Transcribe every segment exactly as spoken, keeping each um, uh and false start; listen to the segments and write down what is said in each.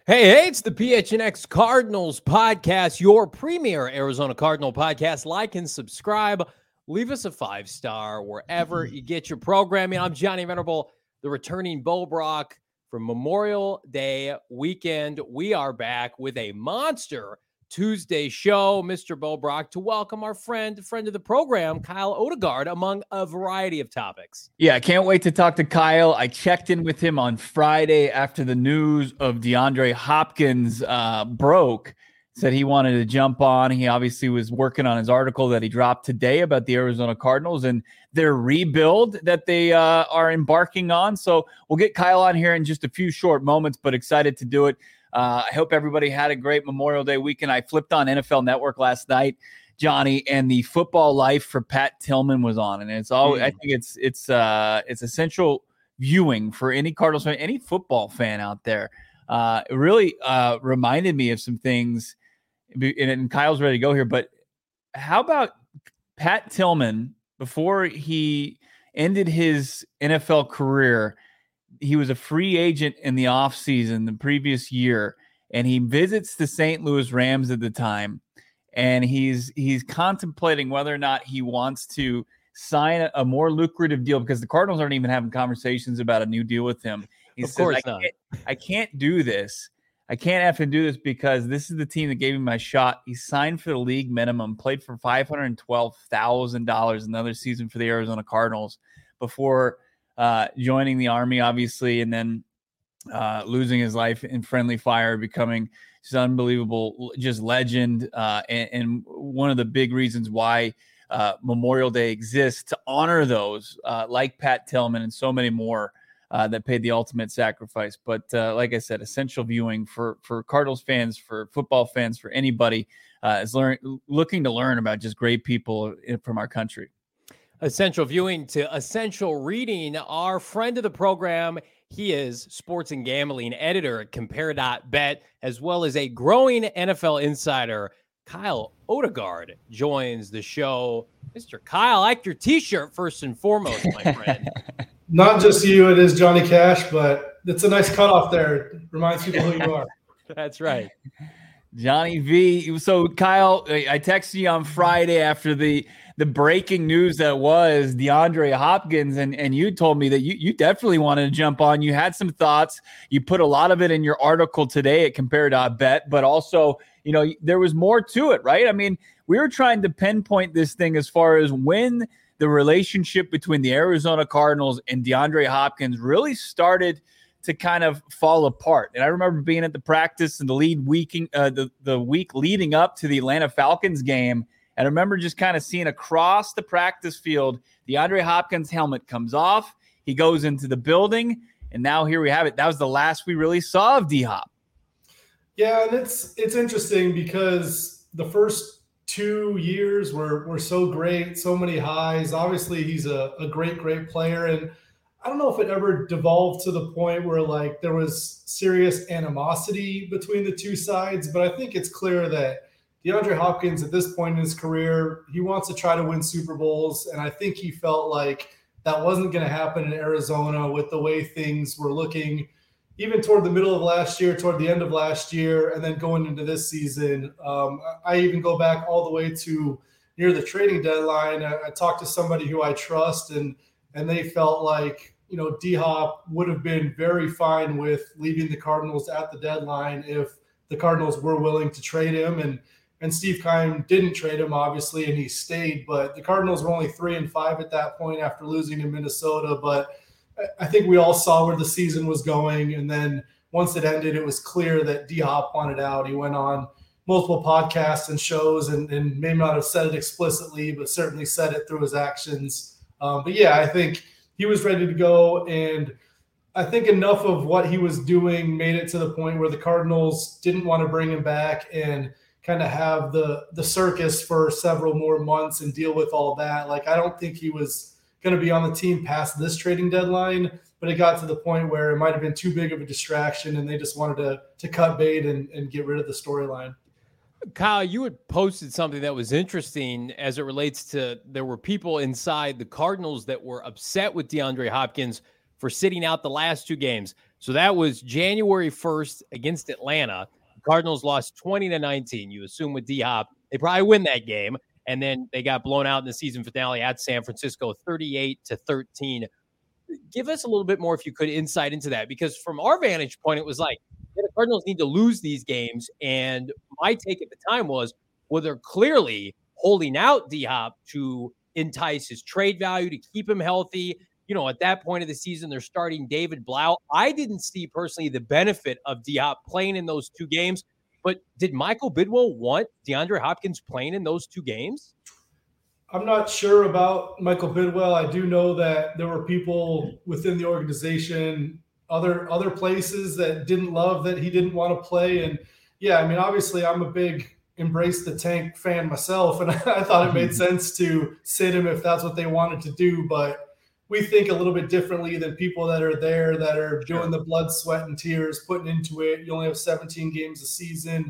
Hey, hey, it's the P H N X Cardinals podcast, your premier Arizona Cardinal podcast. Like and subscribe. Leave us a five-star wherever you get your programming. I'm Johnny Venerable, the returning Bo Brock from Memorial Day weekend. We are back with a monster Tuesday show, Mister Bo Brock, to welcome our friend, friend of the program, Kyle Odegaard, among a variety of topics. Yeah, I can't wait to talk to Kyle. I checked in with him on Friday after the news of DeAndre Hopkins uh, broke. Said he wanted to jump on. He obviously was working on his article that he dropped today about the Arizona Cardinals and their rebuild that they uh, are embarking on. So we'll get Kyle on here in just a few short moments, but excited to do it. Uh, I hope everybody had a great Memorial Day weekend. I flipped on N F L Network last night, Johnny, and the Football Life for Pat Tillman was on, and it's all. Mm. I think it's it's uh it's essential viewing for any Cardinals fan, any football fan out there. Uh, it really uh, reminded me of some things, and, and Kyle's ready to go here. But how about Pat Tillman before he ended his N F L career? He was a free agent in the offseason the previous year, and he visits the Saint Louis Rams at the time. And he's he's contemplating whether or not he wants to sign a, a more lucrative deal because the Cardinals aren't even having conversations about a new deal with him. He of says, course I not. Can't, I can't do this. I can't have to do this because this is the team that gave him my shot. He signed for the league minimum, played for five hundred twelve thousand dollars another season for the Arizona Cardinals before uh, joining the Army, obviously, and then uh, losing his life in friendly fire, becoming just unbelievable, just legend, uh, and, and one of the big reasons why uh, Memorial Day exists to honor those uh, like Pat Tillman and so many more uh, that paid the ultimate sacrifice. But uh, like I said, essential viewing for for Cardinals fans, for football fans, for anybody uh, is learn, looking to learn about just great people from our country. Essential viewing to essential reading. Our friend of the program, he is sports and gambling editor at compare dot bet, as well as a growing N F L insider. Kyle Odegaard joins the show. Mister Kyle, I like your T-shirt first and foremost, my friend. Not just you, it is Johnny Cash, but it's a nice cutoff there. It reminds people who you are. That's right. Johnny V. So, Kyle, I texted you on Friday after the the breaking news that was DeAndre Hopkins, and, and you told me that you, you definitely wanted to jump on. You had some thoughts. You put a lot of it in your article today at compare dot bet, but also, you know, there was more to it, right? I mean, we were trying to pinpoint this thing as far as when the relationship between the Arizona Cardinals and DeAndre Hopkins really started to kind of fall apart. And I remember being at the practice and the lead week, uh, the, the week leading up to the Atlanta Falcons game. And I remember just kind of seeing across the practice field, DeAndre Hopkins' helmet comes off. He goes into the building. And now here we have it. That was the last we really saw of D-Hop. Yeah, and it's it's interesting because the first two years were, were so great, so many highs. Obviously, he's a, a great, great player. And I don't know if it ever devolved to the point where like there was serious animosity between the two sides, but I think it's clear that DeAndre Hopkins at this point in his career, he wants to try to win Super Bowls. And I think he felt like that wasn't going to happen in Arizona with the way things were looking, even toward the middle of last year, toward the end of last year, and then going into this season. Um, I even go back all the way to near the trading deadline. I, I talked to somebody who I trust, and and they felt like, you know, D-Hop would have been very fine with leaving the Cardinals at the deadline if the Cardinals were willing to trade him. And and Steve Keim didn't trade him, obviously, and he stayed. But the Cardinals were only three and five at that point after losing in Minnesota. But I think we all saw where the season was going. And then once it ended, it was clear that D-Hop wanted out. He went on multiple podcasts and shows and, and may not have said it explicitly, but certainly said it through his actions. Um, but, yeah, I think he was ready to go. And I think enough of what he was doing made it to the point where the Cardinals didn't want to bring him back and kind of have the the circus for several more months and deal with all that. Like, I don't think he was going to be on the team past this trading deadline, but it got to the point where it might have been too big of a distraction and they just wanted to to cut bait and, and get rid of the storyline. Kyle, you had posted something that was interesting as it relates to there were people inside the Cardinals that were upset with DeAndre Hopkins for sitting out the last two games. So that was January first against Atlanta. The Cardinals lost twenty to nineteen. You assume with D-Hop, they probably win that game. And then they got blown out in the season finale at San Francisco, thirty-eight to thirteen. Give us a little bit more, if you could, insight into that, because from our vantage point, it was like, yeah, the Cardinals need to lose these games. And my take at the time was, well, they're clearly holding out D-Hop to entice his trade value, to keep him healthy. You know, at that point of the season, they're starting David Blau. I didn't see personally the benefit of D-Hop playing in those two games, but did Michael Bidwell want DeAndre Hopkins playing in those two games? I'm not sure about Michael Bidwell. I do know that there were people within the organization, other other places, that didn't love that he didn't want to play. And yeah, I mean, obviously I'm a big Embrace the Tank fan myself, and I thought it made sense to sit him if that's what they wanted to do. But we think a little bit differently than people that are there, that are doing the blood, sweat, and tears, putting into it. You only have seventeen games a season.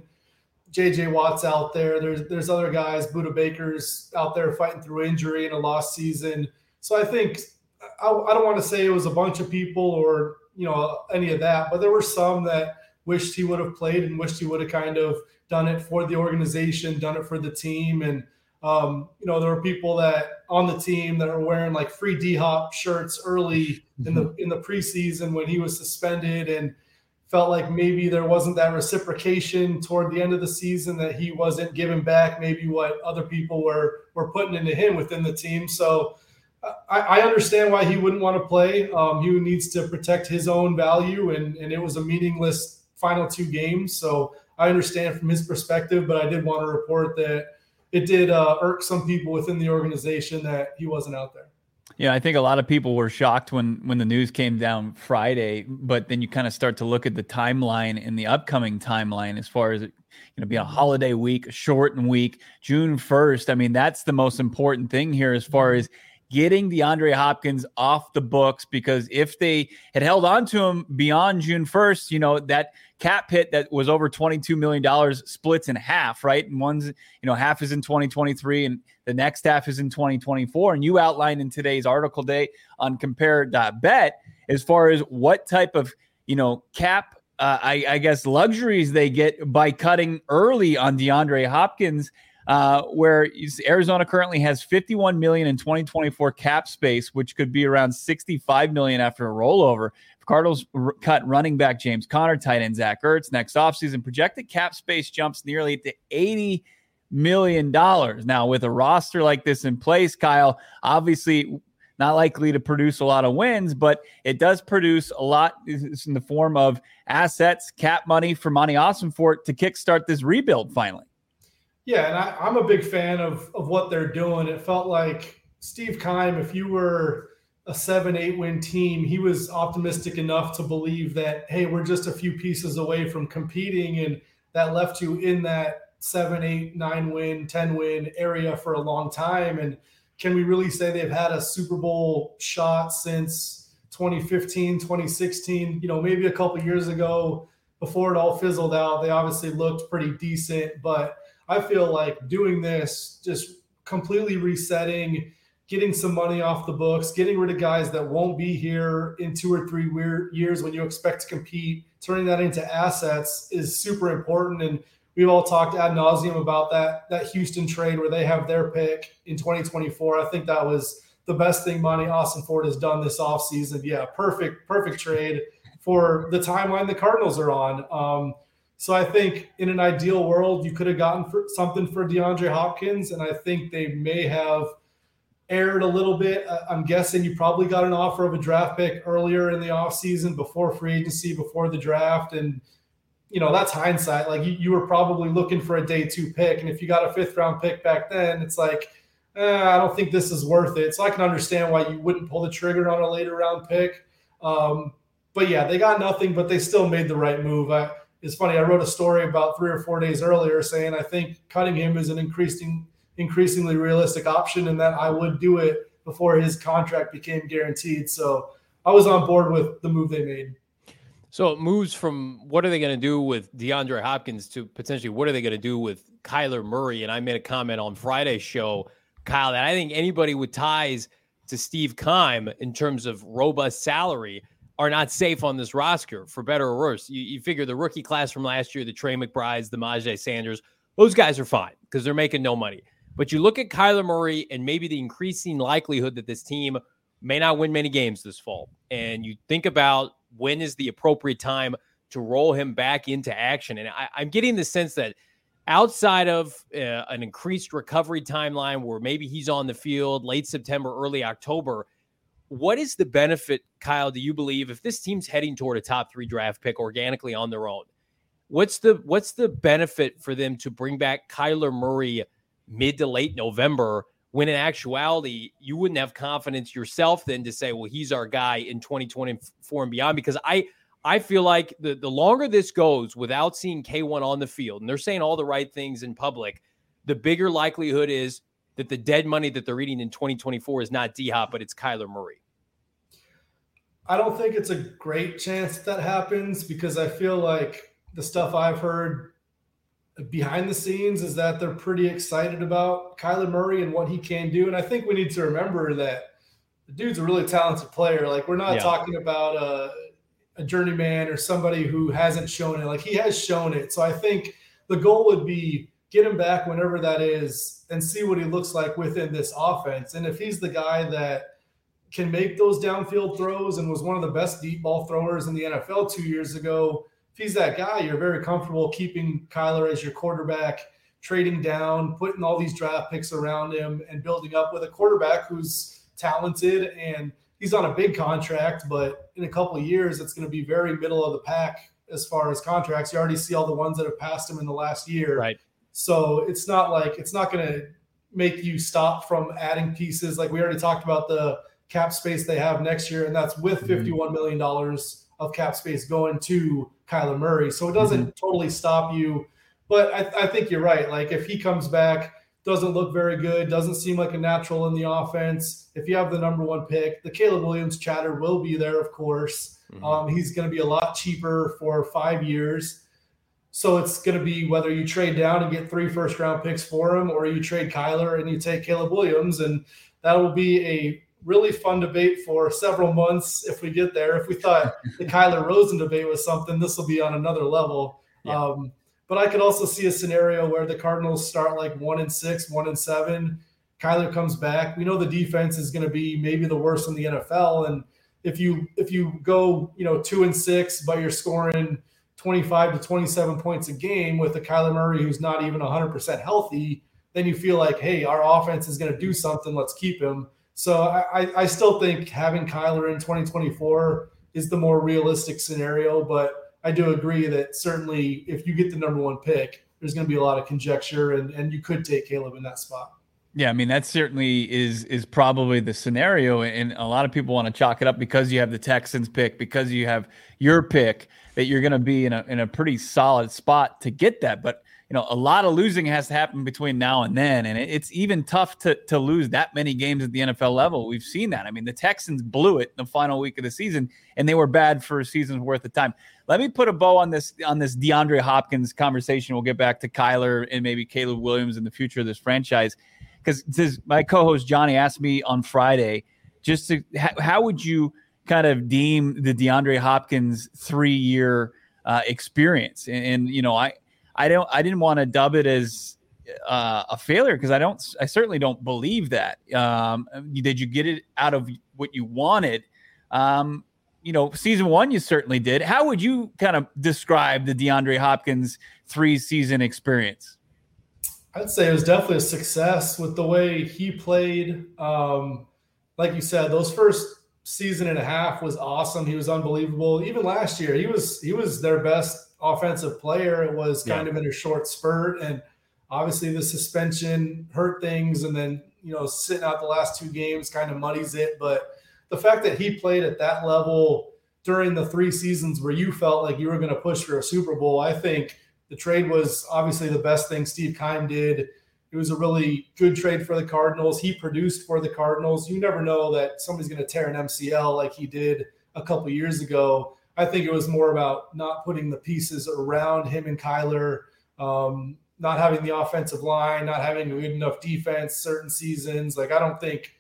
J J Watt's out there. There's there's other guys, Budda Baker's out there fighting through injury in a lost season. So I think I, I don't want to say it was a bunch of people or you know any of that, but there were some that wished he would have played and wished he would have kind of done it for the organization, done it for the team. And um, you know, there were people that on the team that are wearing like free D-Hop shirts early in the in the preseason when he was suspended, and felt like maybe there wasn't that reciprocation toward the end of the season, that he wasn't giving back maybe what other people were were putting into him within the team. So I, I understand why he wouldn't want to play. Um, he needs to protect his own value, and, and it was a meaningless final two games. So I understand from his perspective, but I did want to report that it did uh, irk some people within the organization that he wasn't out there. Yeah, I think a lot of people were shocked when when the news came down Friday, but then you kind of start to look at the timeline and the upcoming timeline as far as it going to be a holiday week, a shortened week, June first. I mean, that's the most important thing here as far as getting DeAndre Hopkins off the books, because if they had held on to him beyond June first, you know, that cap hit that was over twenty-two million dollars splits in half, right? And one's, you know, half is in twenty twenty-three and the next half is in twenty twenty-four. And you outlined in today's article day on compare dot bet as far as what type of, you know, cap, uh, I, I guess, luxuries they get by cutting early on DeAndre Hopkins. Uh, where Arizona currently has fifty-one million dollars in twenty twenty-four cap space, which could be around sixty-five million dollars after a rollover. Cardinals r- cut running back James Conner, tight end Zach Ertz next offseason. Projected cap space jumps nearly to eighty million dollars. Now, with a roster like this in place, Kyle, obviously not likely to produce a lot of wins, but it does produce a lot in the form of assets, cap money for Monty Ossenfort to kickstart this rebuild finally. Yeah, and I, I'm a big fan of of what they're doing. It felt like Steve Keim, if you were a seven, eight win team, he was optimistic enough to believe that, hey, we're just a few pieces away from competing, and that left you in that seven, eight, nine win, ten win area for a long time. And can we really say they've had a Super Bowl shot since twenty fifteen, twenty sixteen? You know, maybe a couple of years ago before it all fizzled out, they obviously looked pretty decent, but I feel like doing this, just completely resetting, getting some money off the books, getting rid of guys that won't be here in two or three weird years when you expect to compete, turning that into assets is super important. And we've all talked ad nauseum about that, that Houston trade where they have their pick in twenty twenty-four. I think that was the best thing Monty Ossenfort has done this offseason. Yeah, perfect, perfect trade for the timeline the Cardinals are on. Um, So I think in an ideal world, you could have gotten for something for DeAndre Hopkins, and I think they may have erred a little bit. I'm guessing you probably got an offer of a draft pick earlier in the offseason before free agency, before the draft. And, you know, that's hindsight. Like you, you were probably looking for a day two pick. And if you got a fifth round pick back then, it's like, eh, I don't think this is worth it. So I can understand why you wouldn't pull the trigger on a later round pick. Um, but yeah, they got nothing, but they still made the right move. I, It's funny, I wrote a story about three or four days earlier saying I think cutting him is an increasing, increasingly realistic option, and that I would do it before his contract became guaranteed. So I was on board with the move they made. So it moves from what are they going to do with DeAndre Hopkins to potentially what are they going to do with Kyler Murray? And I made a comment on Friday's show, Kyle, that I think anybody with ties to Steve Keim in terms of robust salary are not safe on this roster, for better or worse. You, you figure the rookie class from last year, the Trey McBrides, the Majay Sanders, those guys are fine because they're making no money. But you look at Kyler Murray and maybe the increasing likelihood that this team may not win many games this fall. And you think about when is the appropriate time to roll him back into action. And I, I'm getting the sense that outside of uh, an increased recovery timeline where maybe he's on the field late September, early October, what is the benefit, Kyle, do you believe, if this team's heading toward a top three draft pick organically on their own? What's the what's the benefit for them to bring back Kyler Murray mid to late November when in actuality you wouldn't have confidence yourself then to say, well, he's our guy in twenty twenty-four and beyond? Because I I feel like the, the longer this goes without seeing K one on the field, and they're saying all the right things in public, the bigger likelihood is that the dead money that they're eating in twenty twenty-four is not D-Hop, but it's Kyler Murray. I don't think it's a great chance that happens because I feel like the stuff I've heard behind the scenes is that they're pretty excited about Kyler Murray and what he can do. And I think we need to remember that the dude's a really talented player. Like, we're not yeah. talking about a, a journeyman or somebody who hasn't shown it. Like, he has shown it. So I think the goal would be get him back whenever that is and see what he looks like within this offense. And if he's the guy that can make those downfield throws and was one of the best deep ball throwers in the N F L two years ago, if he's that guy, you're very comfortable keeping Kyler as your quarterback, trading down, putting all these draft picks around him and building up with a quarterback who's talented and he's on a big contract, but in a couple of years, it's going to be very middle of the pack as far as contracts. You already see all the ones that have passed him in the last year. Right. So it's not like it's not going to make you stop from adding pieces. Like we already talked about the cap space they have next year, and that's with fifty-one million dollars of cap space going to Kyler Murray. So it doesn't mm-hmm. totally stop you. But I, I think you're right. Like if he comes back, doesn't look very good, doesn't seem like a natural in the offense. If you have the number one pick, the Caleb Williams chatter will be there, of course. Mm-hmm. Um, he's going to be a lot cheaper for five years. So it's going to be whether you trade down and get three first round picks for him or you trade Kyler and you take Caleb Williams. And that will be a really fun debate for several months if we get there. If we thought the Kyler Rosen debate was something, this will be on another level. Yeah. Um, but I could also see a scenario where the Cardinals start like one and six, one and seven. Kyler comes back. We know the defense is going to be maybe the worst in the N F L. And if you if you go, you know, two and six, but you're scoring twenty-five to twenty-seven points a game with a Kyler Murray who's not even one hundred percent healthy, then you feel like, hey, our offense is going to do something. Let's keep him. So I, I still think having Kyler in twenty twenty-four is the more realistic scenario. But I do agree that certainly if you get the number one pick, there's going to be a lot of conjecture, and, and you could take Caleb in that spot. Yeah, I mean, that certainly is is probably the scenario, and a lot of people want to chalk it up because you have the Texans pick, because you have your pick, that you're going to be in a in a pretty solid spot to get that. But you know, a lot of losing has to happen between now and then, and it's even tough to to lose that many games at the N F L level. We've seen that. I mean, the Texans blew it in the final week of the season, and they were bad for a season's worth of time. Let me put a bow on this on this DeAndre Hopkins conversation. We'll get back to Kyler and maybe Caleb Williams in the future of this franchise. Because my co-host Johnny asked me on Friday, just to, how, how would you kind of deem the DeAndre Hopkins three-year uh, experience? And, and you know, I I don't I didn't want to dub it as uh, a failure because I don't I certainly don't believe that. Um, did you get it out of what you wanted? Um, you know, season one you certainly did. How would you kind of describe the DeAndre Hopkins three-season experience? I'd say it was definitely a success with the way he played. Um, like you said, those first season and a half was awesome. He was unbelievable. Even last year, he was he was their best offensive player. It was kind yeah. of in a short spurt, and obviously the suspension hurt things. And then you know, sitting out the last two games kind of muddies it. But the fact that he played at that level during the three seasons where you felt like you were going to push for a Super Bowl, I think. The trade was obviously the best thing Steve Keim did. It was a really good trade for the Cardinals. He produced for the Cardinals. You never know that somebody's going to tear an M C L like he did a couple of years ago. I think it was more about not putting the pieces around him and Kyler, um, not having the offensive line, not having a good enough defense certain seasons. Like I don't think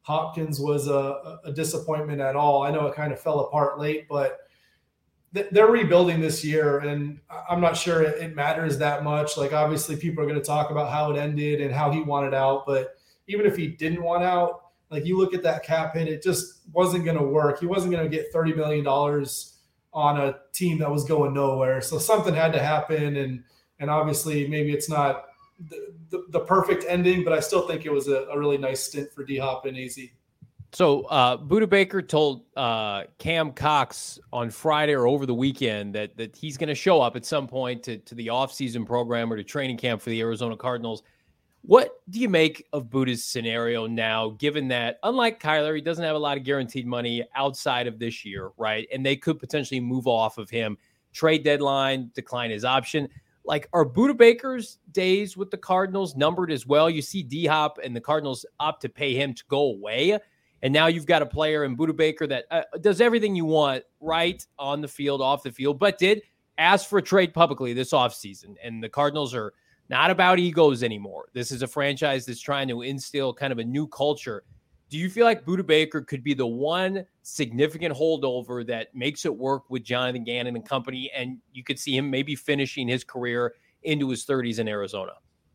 Hopkins was a, a disappointment at all. I know it kind of fell apart late, but they're rebuilding this year, and I'm not sure it matters that much. Like, obviously people are going to talk about how it ended and how he wanted out, but even if he didn't want out, like, you look at that cap hit, it just wasn't going to work. He wasn't going to get thirty million dollars on a team that was going nowhere. So something had to happen. And, and obviously maybe it's not the, the, the perfect ending, but I still think it was a, a really nice stint for D-Hop and A Z. So uh, Budda Baker told uh, Cam Cox on Friday or over the weekend that that he's going to show up at some point to, to the offseason program or to training camp for the Arizona Cardinals. What do you make of Budda's scenario now, given that, unlike Kyler, he doesn't have a lot of guaranteed money outside of this year, right? And they could potentially move off of him, trade deadline, decline his option. Like, are Budda Baker's days with the Cardinals numbered as well? You see D-Hop and the Cardinals opt to pay him to go away. And now you've got a player in Budda Baker that uh, does everything you want right on the field, off the field, but did ask for a trade publicly this offseason. And the Cardinals are not about egos anymore. This is a franchise that's trying to instill kind of a new culture. Do you feel like Budda Baker could be the one significant holdover that makes it work with Jonathan Gannon and company, and you could see him maybe finishing his career into his thirties in Arizona?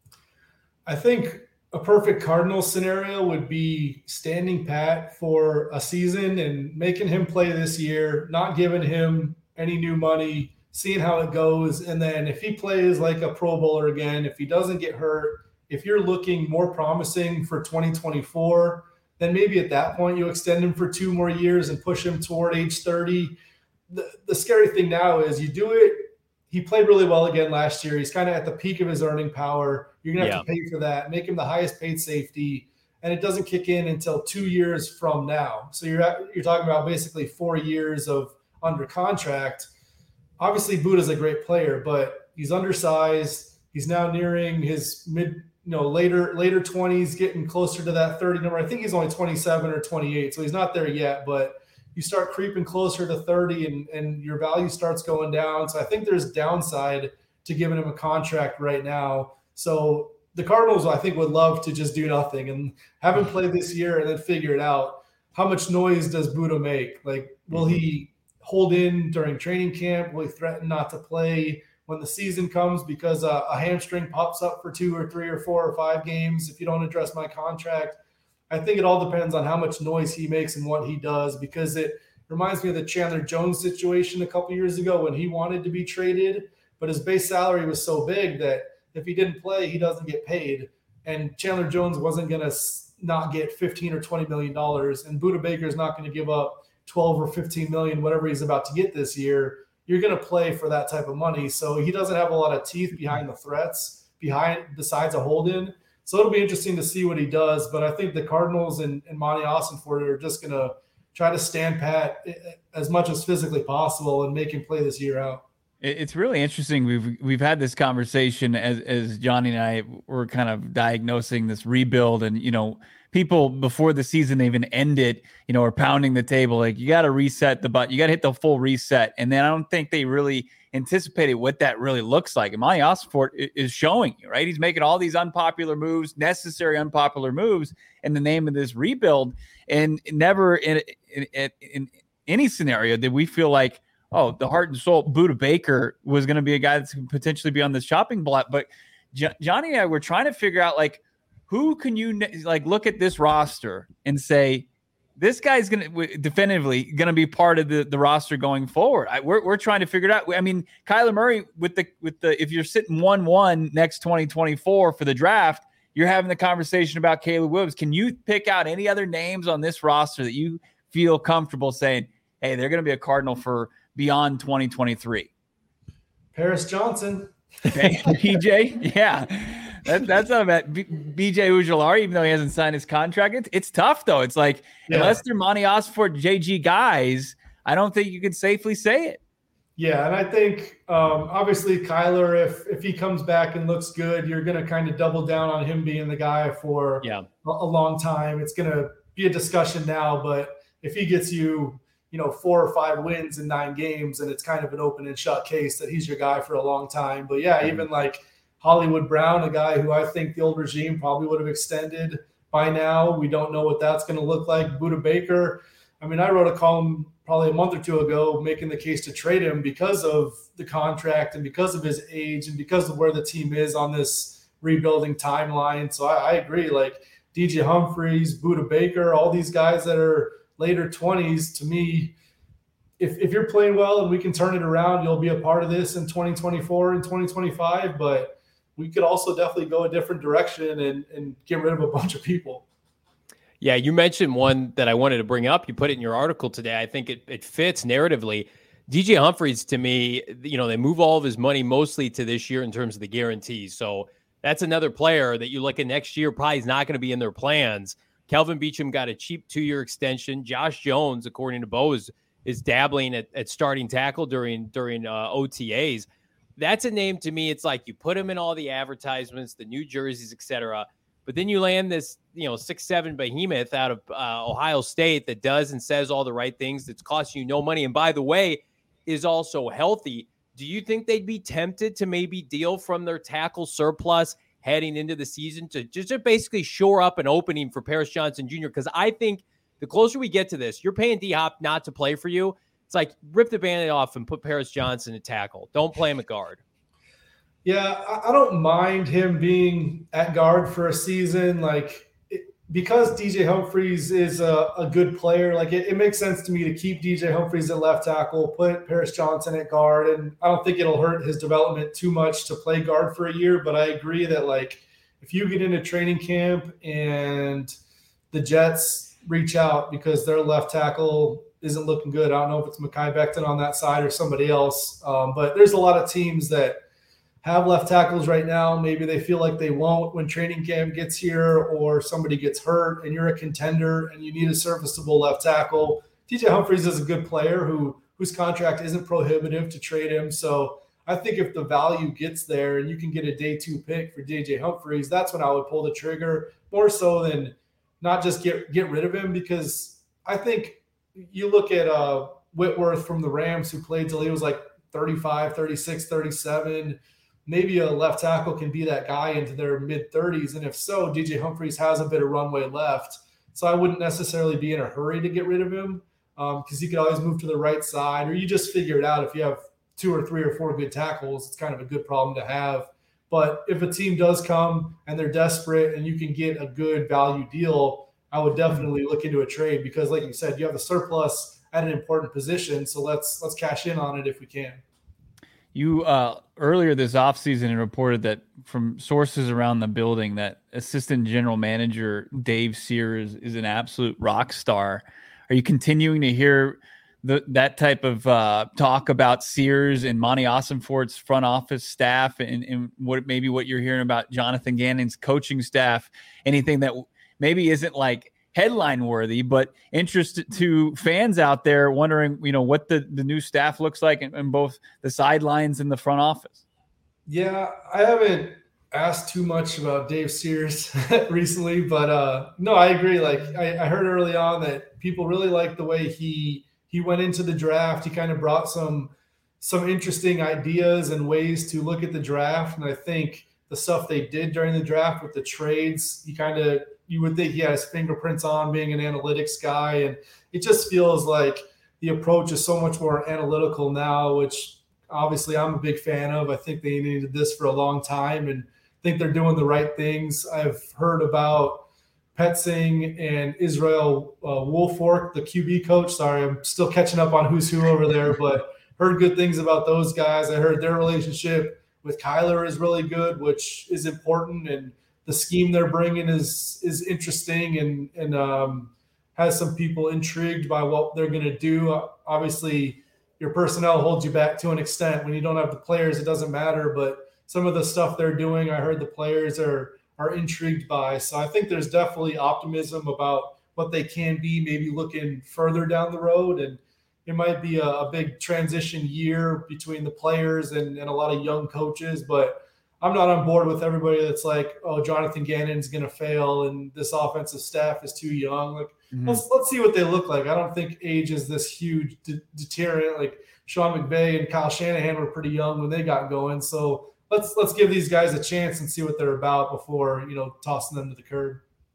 I think a perfect Cardinals scenario would be standing pat for a season and making him play this year, not giving him any new money, seeing how it goes. And then if he plays like a Pro Bowler again, if he doesn't get hurt, if you're looking more promising for twenty twenty-four, then maybe at that point you extend him for two more years and push him toward age thirty. The, the scary thing now is you do it. He played really well again last year. He's kind of at the peak of his earning power. You're going to have yeah. to pay for that, make him the highest paid safety, and it doesn't kick in until two years from now. So you're at, you're talking about basically four years of under contract. Obviously, Budda's a great player, but he's undersized. He's now nearing his mid, you know, later later twenties, getting closer to that thirty number. I think he's only twenty-seven or twenty-eight, so he's not there yet, but you start creeping closer to thirty and, and your value starts going down. So I think there's downside to giving him a contract right now. So the Cardinals, I think, would love to just do nothing and have him play this year and then figure it out. How much noise does Budda make? Like, will he hold in during training camp? Will he threaten not to play when the season comes because a, a hamstring pops up for two or three or four or five games if you don't address my contract? I think it all depends on how much noise he makes and what he does, because it reminds me of the Chandler Jones situation a couple years ago when he wanted to be traded, but his base salary was so big that if he didn't play, he doesn't get paid. And Chandler Jones wasn't going to not get fifteen or twenty million dollars, and Budda Baker is not going to give up twelve or fifteen million, whatever he's about to get this year. You're going to play for that type of money. So he doesn't have a lot of teeth behind the threats, behind besides a hold-in. So it'll be interesting to see what he does. But I think the Cardinals and, and Monty Ossenfort are just going to try to stand pat as much as physically possible and make him play this year out. It's really interesting. We've we've had this conversation as as Johnny and I were kind of diagnosing this rebuild, and you know, people before the season even ended, you know, are pounding the table like, you got to reset the button, you got to hit the full reset. And then I don't think they really anticipated what that really looks like. And Monty Ossenfort is showing you, right? He's making all these unpopular moves, necessary unpopular moves in the name of this rebuild, and never in in, in, in any scenario did we feel like, oh, the heart and soul Budda Baker was going to be a guy that's going to potentially be on the chopping block. But J- Johnny and I were trying to figure out, like, who can you like look at this roster and say, this guy's going to definitively going to be part of the, the roster going forward. I, we're we're trying to figure it out. I mean, Kyler Murray with the with the if you're sitting one one next twenty twenty-four for the draft, you're having the conversation about Caleb Williams. Can you pick out any other names on this roster that you feel comfortable saying, hey, they're going to be a Cardinal for beyond twenty twenty-three? Paris Johnson. B J? Yeah. That, that's not bad. B J Ojulari, even though he hasn't signed his contract. It's, it's tough, though. It's like, yeah. unless they're Monty Ossenfort, J G guys, I don't think you could safely say it. Yeah, and I think, um, obviously, Kyler, if if he comes back and looks good, you're going to kind of double down on him being the guy for yeah. a, a long time. It's going to be a discussion now, but if he gets you, you know, four or five wins in nine games, and it's kind of an open and shut case that he's your guy for a long time. But, yeah, mm-hmm. even like Hollywood Brown, a guy who I think the old regime probably would have extended by now. We don't know what that's going to look like. Budda Baker, I mean, I wrote a column probably a month or two ago making the case to trade him because of the contract and because of his age and because of where the team is on this rebuilding timeline. So I, I agree. Like D J Humphries, Budda Baker, all these guys that are later twenties, to me, if, if you're playing well and we can turn it around, you'll be a part of this in twenty twenty-four and twenty twenty-five. But we could also definitely go a different direction and, and get rid of a bunch of people. Yeah, you mentioned one that I wanted to bring up. You put it in your article today. I think it, it fits narratively. D J Humphries, to me, you know, they move all of his money mostly to this year in terms of the guarantees. So that's another player that you look at next year, probably is not going to be in their plans. Kelvin Beachum got a cheap two-year extension. Josh Jones, according to Bo, is, is dabbling at, at starting tackle during, during uh, O T As. That's a name to me. It's like you put him in all the advertisements, the new jerseys, et cetera. But then you land this, you know, six seven behemoth out of uh, Ohio State that does and says all the right things. That's costing you no money. And by the way, is also healthy. Do you think they'd be tempted to maybe deal from their tackle surplus heading into the season to just to basically shore up an opening for Paris Johnson Junior? Because I think the closer we get to this, you're paying D-Hop not to play for you. It's like rip the Band-Aid off and put Paris Johnson at tackle. Don't play him at guard. Yeah, I don't mind him being at guard for a season. Like, it, because D J Humphries is a, a good player, like it, it makes sense to me to keep D J Humphries at left tackle, put Paris Johnson at guard, and I don't think it'll hurt his development too much to play guard for a year. But I agree that, like, if you get into training camp and the Jets reach out because their left tackle isn't looking good, I don't know if it's Mekhi Becton on that side or somebody else, um, but there's a lot of teams that have left tackles right now. Maybe they feel like they won't when training camp gets here, or somebody gets hurt and you're a contender and you need a serviceable left tackle. D J Humphries is a good player who whose contract isn't prohibitive to trade him. So I think if the value gets there and you can get a day two pick for D J Humphries, that's when I would pull the trigger, more so than not just get, get rid of him. Because I think you look at uh, Whitworth from the Rams, who played till he was like thirty-five, thirty-six, thirty-seven. Maybe a left tackle can be that guy into their mid-thirties. And if so, D J Humphries has a bit of runway left. So I wouldn't necessarily be in a hurry to get rid of him because um, he could always move to the right side, or you just figure it out. If you have two or three or four good tackles, it's kind of a good problem to have. But if a team does come and they're desperate and you can get a good value deal, I would definitely look into a trade because, like you said, you have a surplus at an important position. So let's let's cash in on it if we can. You uh, earlier this offseason reported that from sources around the building that assistant general manager Dave Sears is an absolute rock star. Are you continuing to hear the, that type of uh, talk about Sears and Monty Ossenfort's front office staff, and, and what maybe what you're hearing about Jonathan Gannon's coaching staff? Anything that maybe isn't like headline worthy, but interest to fans out there wondering, you know, what the, the new staff looks like in, in both the sidelines and the front office? Yeah, I haven't asked too much about Dave Sears recently, but uh, no, I agree. Like I, I heard early on that people really liked the way he he went into the draft. He kind of brought some some interesting ideas and ways to look at the draft. And I think the stuff they did during the draft with the trades, he kind of you would think he had his fingerprints on being an analytics guy. And it just feels like the approach is so much more analytical now, which obviously I'm a big fan of. I think they needed this for a long time and think they're doing the right things. I've heard about Petzing and Israel uh, Woolfork, the Q B coach. Sorry, I'm still catching up on who's who over there, but heard good things about those guys. I heard their relationship with Kyler is really good, which is important. And the scheme they're bringing is is interesting and and um, has some people intrigued by what they're going to do. Uh, obviously, your personnel holds you back to an extent. When you don't have the players, it doesn't matter. But some of the stuff they're doing, I heard the players are are intrigued by. So I think there's definitely optimism about what they can be, maybe looking further down the road. And it might be a, a big transition year between the players and, and a lot of young coaches, but I'm not on board with everybody that's like, oh, Jonathan Gannon's going to fail and this offensive staff is too young. Like, mm-hmm. let's let's see what they look like. I don't think age is this huge de- deterrent. Like Sean McVay and Kyle Shanahan were pretty young when they got going. So let's let's give these guys a chance and see what they're about before, you know, tossing them to the curb.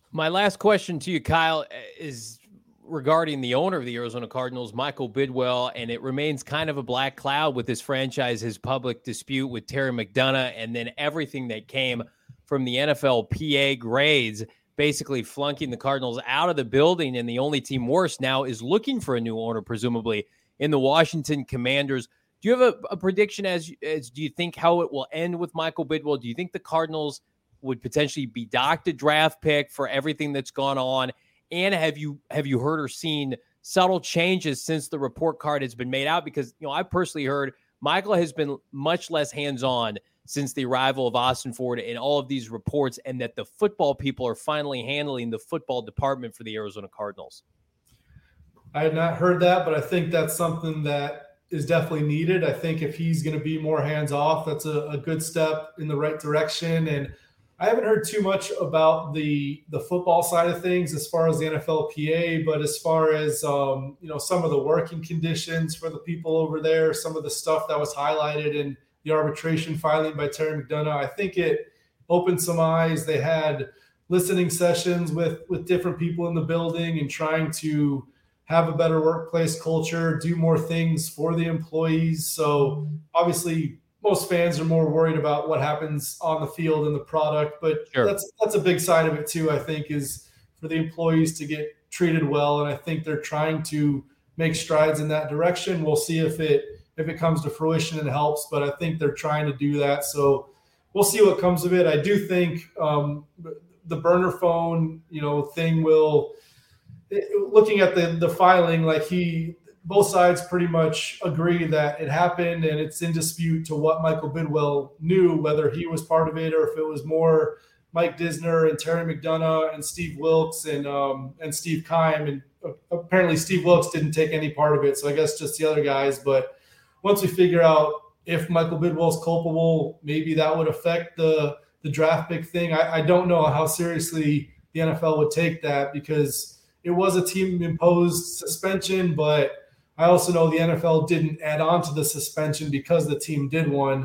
My last question to you, Kyle, is regarding the owner of the Arizona Cardinals, Michael Bidwell, and it remains kind of a black cloud with this franchise, his public dispute with Terry McDonough, and then everything that came from the N F L P A grades, basically flunking the Cardinals out of the building, and the only team worse now is looking for a new owner, presumably, in the Washington Commanders. Do you have a, a prediction as, as do you think how it will end with Michael Bidwell? Do you think the Cardinals would potentially be docked a draft pick for everything that's gone on? And have you have you heard or seen subtle changes since the report card has been made out? Because, you know, I personally heard Michael has been much less hands-on since the arrival of Austin Ford in all of these reports, and that the football people are finally handling the football department for the Arizona Cardinals. I had not heard that, but I think that's something that is definitely needed. I think if he's going to be more hands-off, that's a, a good step in the right direction. And I haven't heard too much about the the football side of things as far as the N F L P A, but as far as um, you know, some of the working conditions for the people over there, some of the stuff that was highlighted in the arbitration filing by Terry McDonough, I think it opened some eyes. They had listening sessions with with different people in the building and trying to have a better workplace culture, do more things for the employees. So obviously, most fans are more worried about what happens on the field and the product, but sure. that's that's a big side of it too, I think, is for the employees to get treated well. And I think they're trying to make strides in that direction. We'll see if it if it comes to fruition and helps, but I think they're trying to do that. So we'll see what comes of it. I do think um, the burner phone, you know, thing will, looking at the the filing, like he, both sides pretty much agree that it happened, and it's in dispute to what Michael Bidwell knew, whether he was part of it or if it was more Mike Disner and Terry McDonough and Steve Wilks and um, and Steve Keim. And apparently Steve Wilks didn't take any part of it, so I guess just the other guys. But once we figure out if Michael Bidwell's culpable, maybe that would affect the the draft pick thing. I, I don't know how seriously the N F L would take that, because it was a team-imposed suspension, but I also know the N F L didn't add on to the suspension because the team did one.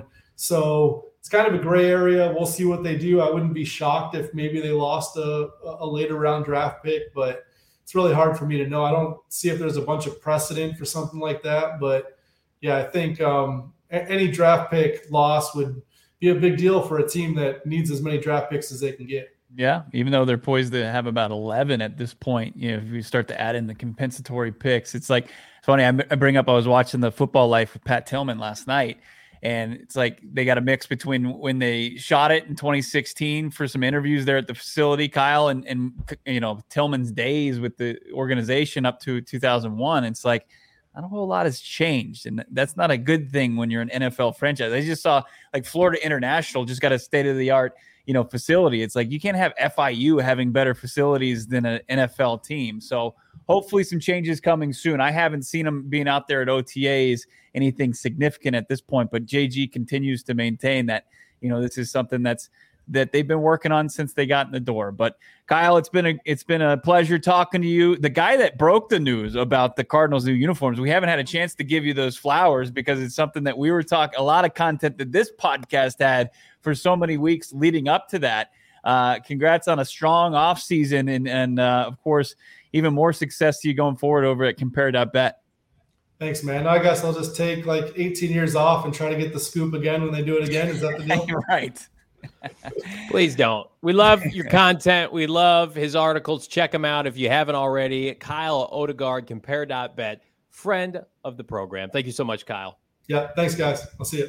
So it's kind of a gray area. We'll see what they do. I wouldn't be shocked if maybe they lost a, a later round draft pick, but it's really hard for me to know. I don't see if there's a bunch of precedent for something like that. But, yeah, I think um, any draft pick loss would be a big deal for a team that needs as many draft picks as they can get. Yeah, even though they're poised to have about eleven at this point, you know, if you start to add in the compensatory picks, it's like, it's funny. I bring up, I was watching the Football Life with Pat Tillman last night, and it's like they got a mix between when they shot it in twenty sixteen for some interviews there at the facility, Kyle, and, and you know, Tillman's days with the organization up to two thousand one. It's like, not a whole lot has changed, and that's not a good thing when you're an N F L franchise. I just saw like Florida International just got a state-of-the-art, you know, facility. It's like you can't have F I U having better facilities than an N F L team. So hopefully some changes coming soon. I haven't seen them being out there at O T As, anything significant at this point, but J G continues to maintain that, you know, this is something that's that they've been working on since they got in the door. But Kyle, it's been a it's been a pleasure talking to you. The guy that broke the news about the Cardinals' new uniforms, we haven't had a chance to give you those flowers because it's something that we were talking, a lot of content that this podcast had for so many weeks leading up to that. Uh, congrats on a strong offseason, and, and uh, of course, even more success to you going forward over at compare dot bet. Thanks, man. I guess I'll just take like eighteen years off and try to get the scoop again when they do it again. Is that the deal? Right. Please don't. We love your content. We love his articles. Check them out if you haven't already. Kyle Odegard, compare dot bet, friend of the program. Thank you so much, Kyle. Yeah, thanks, guys. I'll see you.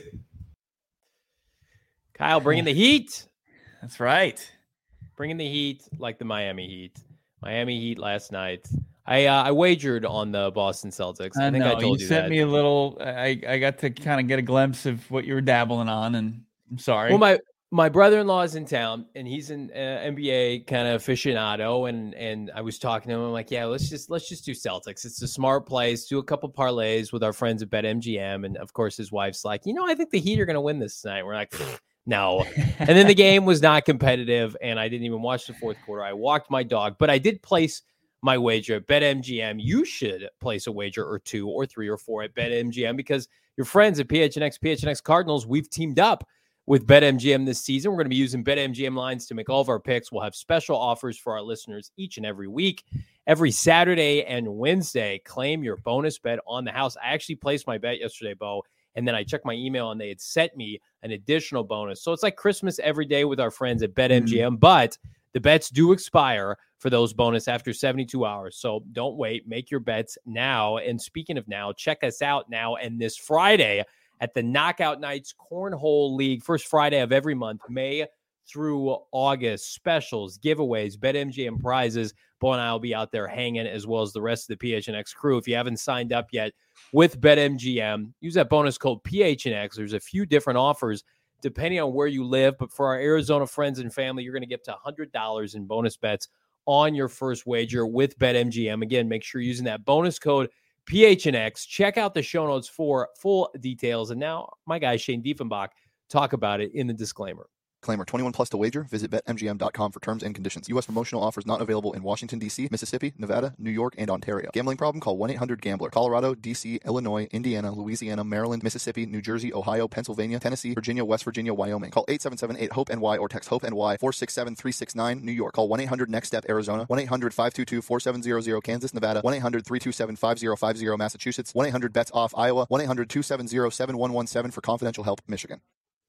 Kyle bringing the heat. That's right. Bringing the heat like the Miami Heat. Miami Heat last night. I uh, I wagered on the Boston Celtics. I, I think know. I told you, you sent that. me a little. I I got to kind of get a glimpse of what you were dabbling on, and I'm sorry. Well, my my brother-in-law is in town, and he's an uh, N B A kind of aficionado, and and I was talking to him. I'm like, yeah, let's just let's just do Celtics. It's a smart place. Do a couple parlays with our friends at BetMGM, and of course, his wife's like, you know, I think the Heat are going to win this tonight. We're like, no. And then the game was not competitive, and I didn't even watch the fourth quarter. I walked my dog, but I did place my wager at BetMGM. You should place a wager or two or three or four at BetMGM because your friends at P H N X, P H N X Cardinals, we've teamed up with BetMGM this season. We're going to be using BetMGM lines to make all of our picks. We'll have special offers for our listeners each and every week. Every Saturday and Wednesday, claim your bonus bet on the house. I actually placed my bet yesterday, Bo, and then I checked my email and they had sent me an additional bonus. So it's like Christmas every day with our friends at BetMGM, mm-hmm. but the bets do expire for those bonus after seventy-two hours. So don't wait. Make your bets now. And speaking of now, check us out now and this Friday at the Knockout Nights Cornhole League. First Friday of every month, May through August. Specials, giveaways, BetMGM prizes. Bo and I will be out there hanging, as well as the rest of the P H N X crew. If you haven't signed up yet with BetMGM, use that bonus code P H N X. There's a few different offers depending on where you live. But for our Arizona friends and family, you're going to get up to one hundred dollars in bonus bets on your first wager with BetMGM. Again, make sure you're using that bonus code P H N X. Check out the show notes for full details. And now my guy, Shane Diefenbach, talk about it in the disclaimer. Disclaimer, twenty-one plus to wager. Visit Bet M G M dot com for terms and conditions. U S promotional offers not available in Washington, D C, Mississippi, Nevada, New York, and Ontario. Gambling problem? Call one eight hundred gambler. Colorado, D C, Illinois, Indiana, Louisiana, Maryland, Mississippi, New Jersey, Ohio, Pennsylvania, Tennessee, Virginia, West Virginia, Wyoming. Call eight seven seven eight hope N Y or text HOPE-NY four six seven three six nine. New York. Call one eight hundred next step Arizona. one eight hundred five two two four seven zero zero. Kansas, Nevada. one eight hundred three two seven five zero five zero. Massachusetts. one eight hundred bets off Iowa. one eight hundred two seven zero seven one one seven for confidential help, Michigan.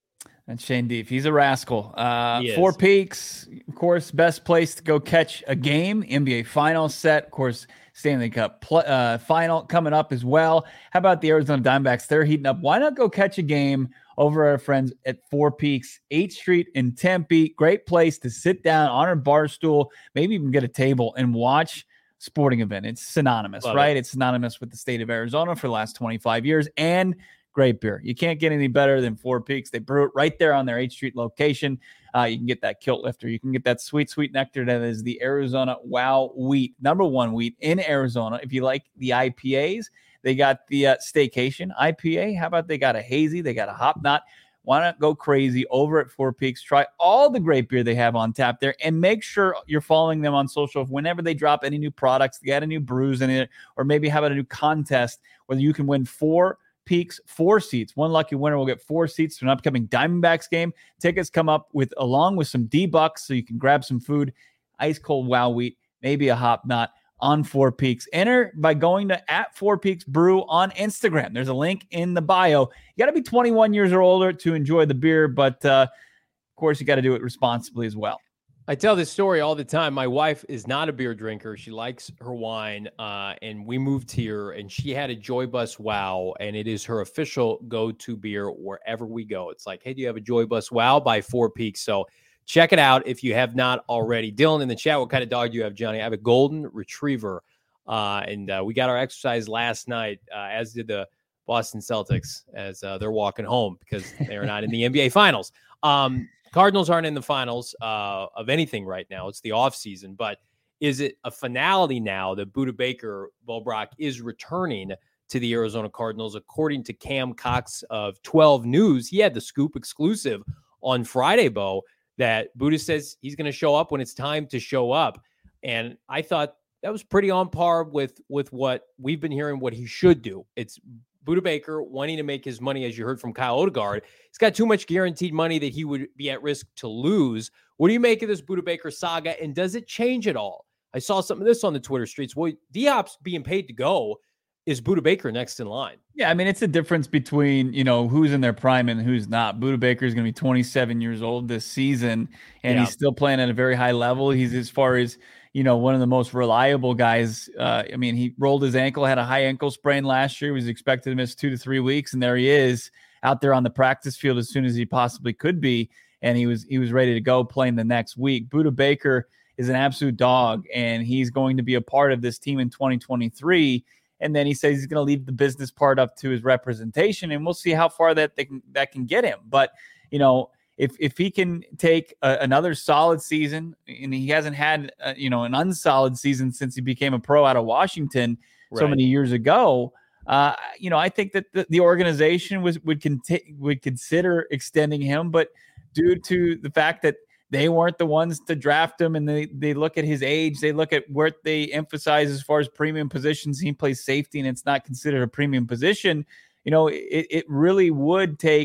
And Shane Deef, he's a rascal. Uh, He Four is. Peaks, of course, best place to go catch a game. N B A Finals set, of course, Stanley Cup pl- uh, final coming up as well. How about the Arizona Diamondbacks? They're heating up. Why not go catch a game over our friends at Four Peaks, eighth Street in Tempe? Great place to sit down on a bar stool, maybe even get a table and watch sporting event. It's synonymous, Love right? it. It's synonymous with the state of Arizona for the last twenty-five years. And great beer. You can't get any better than Four Peaks. They brew it right there on their eighth Street location. Uh, you can get that kilt lifter. You can get that sweet, sweet nectar that is the Arizona Wow wheat, number one wheat in Arizona. If you like the I P As, they got the uh, Staycation I P A. How about they got a hazy? They got a hop knot. Why not go crazy over at Four Peaks? Try all the great beer they have on tap there, and make sure you're following them on social. Whenever they drop any new products, they got a new brews in it, or maybe have a new contest where you can win four Peaks, four seats. One lucky winner will get four seats to an upcoming Diamondbacks game. Tickets come up with along with some D-Bucks, so you can grab some food, ice cold Wow wheat, maybe a hop knot on Four Peaks. Enter by going to at Four Peaks Brew on Instagram. There's a link in the bio. You got to be twenty-one years or older to enjoy the beer, but uh, of course you got to do it responsibly as well. I tell this story all the time. My wife is not a beer drinker. She likes her wine. Uh, and we moved here and she had a Joy Bus Wow, and it is her official go-to beer wherever we go. It's like, hey, do you have a Joy Bus Wow by Four Peaks? So check it out if you have not already. Dylan in the chat, what kind of dog do you have, Johnny? I have a golden retriever. Uh, and uh, we got our exercise last night, uh, as did the Boston Celtics, as uh, they're walking home because they're not in the N B A Finals. Um, Cardinals aren't in the finals uh, of anything right now. It's the offseason. But is it a finality now that Budda Baker, Bo Brock, is returning to the Arizona Cardinals? According to Cam Cox of twelve News, he had the scoop exclusive on Friday, Bo, that Budda says he's going to show up when it's time to show up. And I thought that was pretty on par with, with what we've been hearing what he should do. It's Budda Baker wanting to make his money, as you heard from Kyle Odegaard. He's got too much guaranteed money that he would be at risk to lose. What do you make of this Budda Baker saga, and does it change at all? I saw some of this on the Twitter streets. Well, D-Hop's being paid to go. Is Budda Baker next in line? Yeah, I mean, it's a difference between, you know, who's in their prime and who's not. Budda Baker is going to be twenty-seven years old this season, and Yeah. he's still playing at a very high level. He's, as far as, you know, one of the most reliable guys. Uh, I mean, he rolled his ankle, had a high ankle sprain last year. He was expected to miss two to three weeks, and there he is out there on the practice field as soon as he possibly could be, and he was he was ready to go playing the next week. Budda Baker is an absolute dog, and he's going to be a part of this team in twenty twenty-three. And then he says he's going to leave the business part up to his representation, and we'll see how far that they can, that can get him. But, you know, if if he can take a, another solid season, and he hasn't had, uh, you know, an unsolid season since he became a pro out of Washington so Right. many years ago, uh, you know, I think that the, the organization was would conti- would consider extending him, but due to the fact that they weren't the ones to draft him, and they, they look at his age, they look at what they emphasize as far as premium positions. He plays safety, and it's not considered a premium position. You know, it, it really would take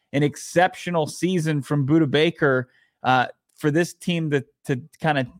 an exceptional season from Budda Baker uh, for this team to to kind of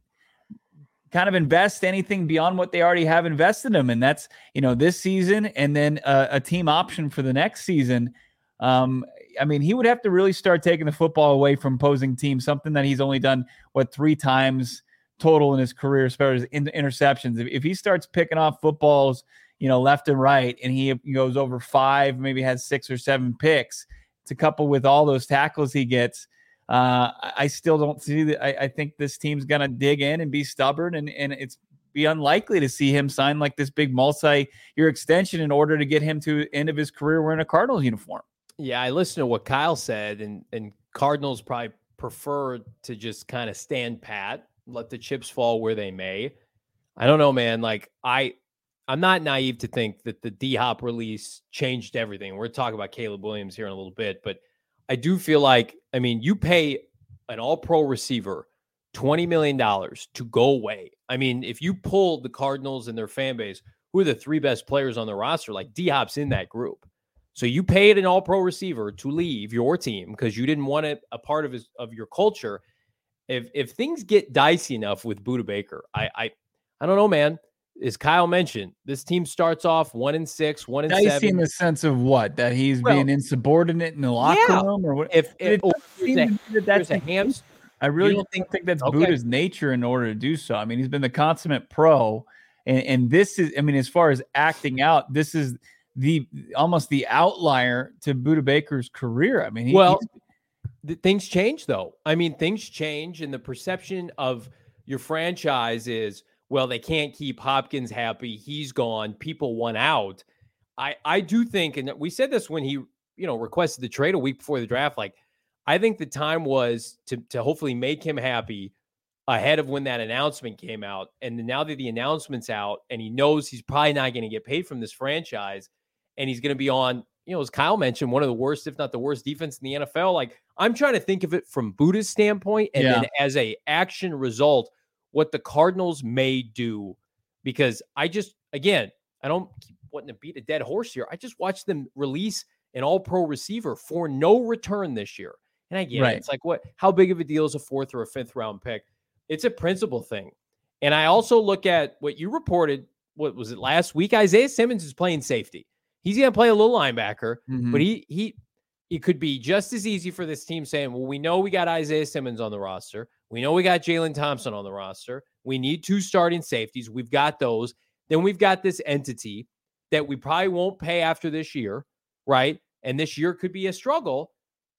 kind of invest anything beyond what they already have invested in them. And that's, you know, this season and then a, a team option for the next season. Um, I mean, he would have to really start taking the football away from opposing teams, something that he's only done, what, three times total in his career as far as in, interceptions. If, if he starts picking off footballs, you know, left and right, and he goes over five, maybe has six or seven picks to couple with all those tackles he gets, Uh, I still don't see that. I, I think this team's going to dig in and be stubborn, and, and it's be unlikely to see him sign like this big multi-year extension in order to get him to the end of his career wearing a Cardinals uniform. Yeah, I listened to what Kyle said, and, and Cardinals probably prefer to just kind of stand pat, let the chips fall where they may. I don't know, man. Like, I, I'm not naive to think that the D-Hop release changed everything. We're talking about Caleb Williams here in a little bit, but I do feel like, I mean, you pay an all-pro receiver twenty million dollars to go away. I mean, if you pull the Cardinals and their fan base, who are the three best players on the roster, like D-Hop's in that group. So you paid an all-pro receiver to leave your team because you didn't want it a part of his of your culture. If if things get dicey enough with Budda Baker, I I I don't know, man. As Kyle mentioned, this team starts off one and six, one and dicey seven. In the sense of what? That he's well, being insubordinate in the locker yeah. room, or what? If, if it there's a, that that's a hamster, I really don't think, think, think that's okay. Budda's nature in order to do so. I mean, he's been the consummate pro, and, and this is, I mean, as far as acting out, this is the almost the outlier to Budda Baker's career. I mean, he, well, th- things change though. I mean, things change, and the perception of your franchise is, well, they can't keep Hopkins happy. He's gone. People want out. I, I do think, and we said this when he, you know, requested the trade a week before the draft. Like, I think the time was to to hopefully make him happy ahead of when that announcement came out. And now that the announcement's out and he knows he's probably not going to get paid from this franchise, and he's going to be on, you know, as Kyle mentioned, one of the worst, if not the worst defense in the N F L. Like, I'm trying to think of it from Budda's standpoint, and yeah. then as a action result, what the Cardinals may do, because I just, again, I don't keep wanting to beat a dead horse here. I just watched them release an all-pro receiver for no return this year. And I get right. it. It's like, what, how big of a deal is a fourth or a fifth round pick? It's a principle thing. And I also look at what you reported, what was it last week? Isaiah Simmons is playing safety. He's going to play a little linebacker, mm-hmm. but he, he, it could be just as easy for this team saying, well, we know we got Isaiah Simmons on the roster. We know we got Jalen Thompson on the roster. We need two starting safeties. We've got those. Then we've got this entity that we probably won't pay after this year, right? And this year could be a struggle.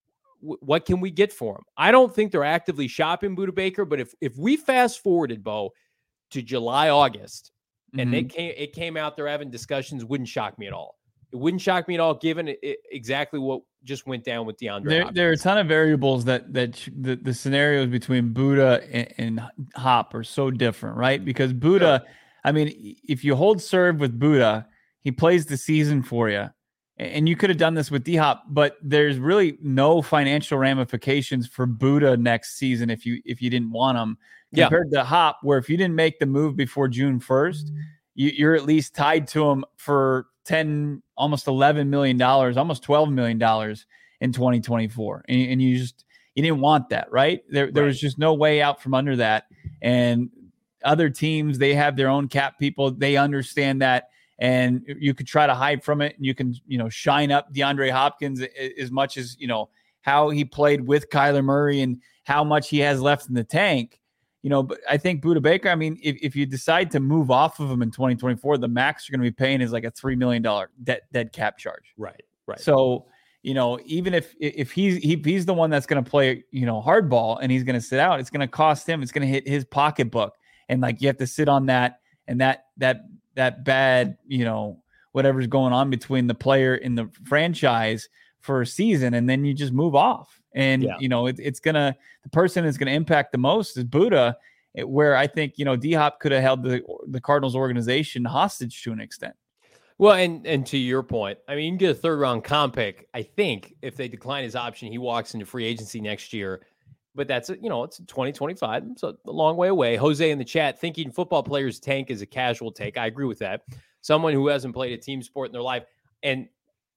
W- what can we get for him? I don't think they're actively shopping Budda Baker, but if if we fast forwarded, Bo, to July, August, and mm-hmm. they came, it came out they're having discussions, wouldn't shock me at all. It wouldn't shock me at all, given it, it, exactly what just went down with DeAndre There, Hopkins. there are a ton of variables that that the, the scenarios between Budda and, and Hop are so different, right? Because Budda, Sure. I mean, if you hold serve with Budda, he plays the season for you, and you could have done this with D-Hop, but there's really no financial ramifications for Budda next season if you if you didn't want him. Compared yeah. to Hop, where if you didn't make the move before June first, you, you're at least tied to him for ten, almost eleven million dollars, almost twelve million dollars in twenty twenty-four. And, and you just, you didn't want that, right? There, there right. was just no way out from under that. And other teams, they have their own cap people. They understand that. And you could try to hide from it, and you can, you know, shine up DeAndre Hopkins as much as, you know, how he played with Kyler Murray and how much he has left in the tank. You know, but I think Budda Baker, I mean, if, if you decide to move off of him in twenty twenty-four, the max you're going to be paying is like a three million dollars dead, dead cap charge. Right, right. So, you know, even if if he's he, he's the one that's going to play, you know, hardball and he's going to sit out, it's going to cost him. It's going to hit his pocketbook. And like, you have to sit on that and that that that bad, you know, whatever's going on between the player and the franchise for a season. And then you just move off. And, yeah. you know, it, it's going to, the person that's going to impact the most is Budda, where I think, you know, D-Hop could have held the the Cardinals organization hostage to an extent. Well, and and to your point, I mean, you can get a third round comp pick. I think if they decline his option, he walks into free agency next year. But that's, you know, it's twenty twenty-five. It's a long way away. Jose in the chat thinking football players tank is a casual take. I agree with that. Someone who hasn't played a team sport in their life. And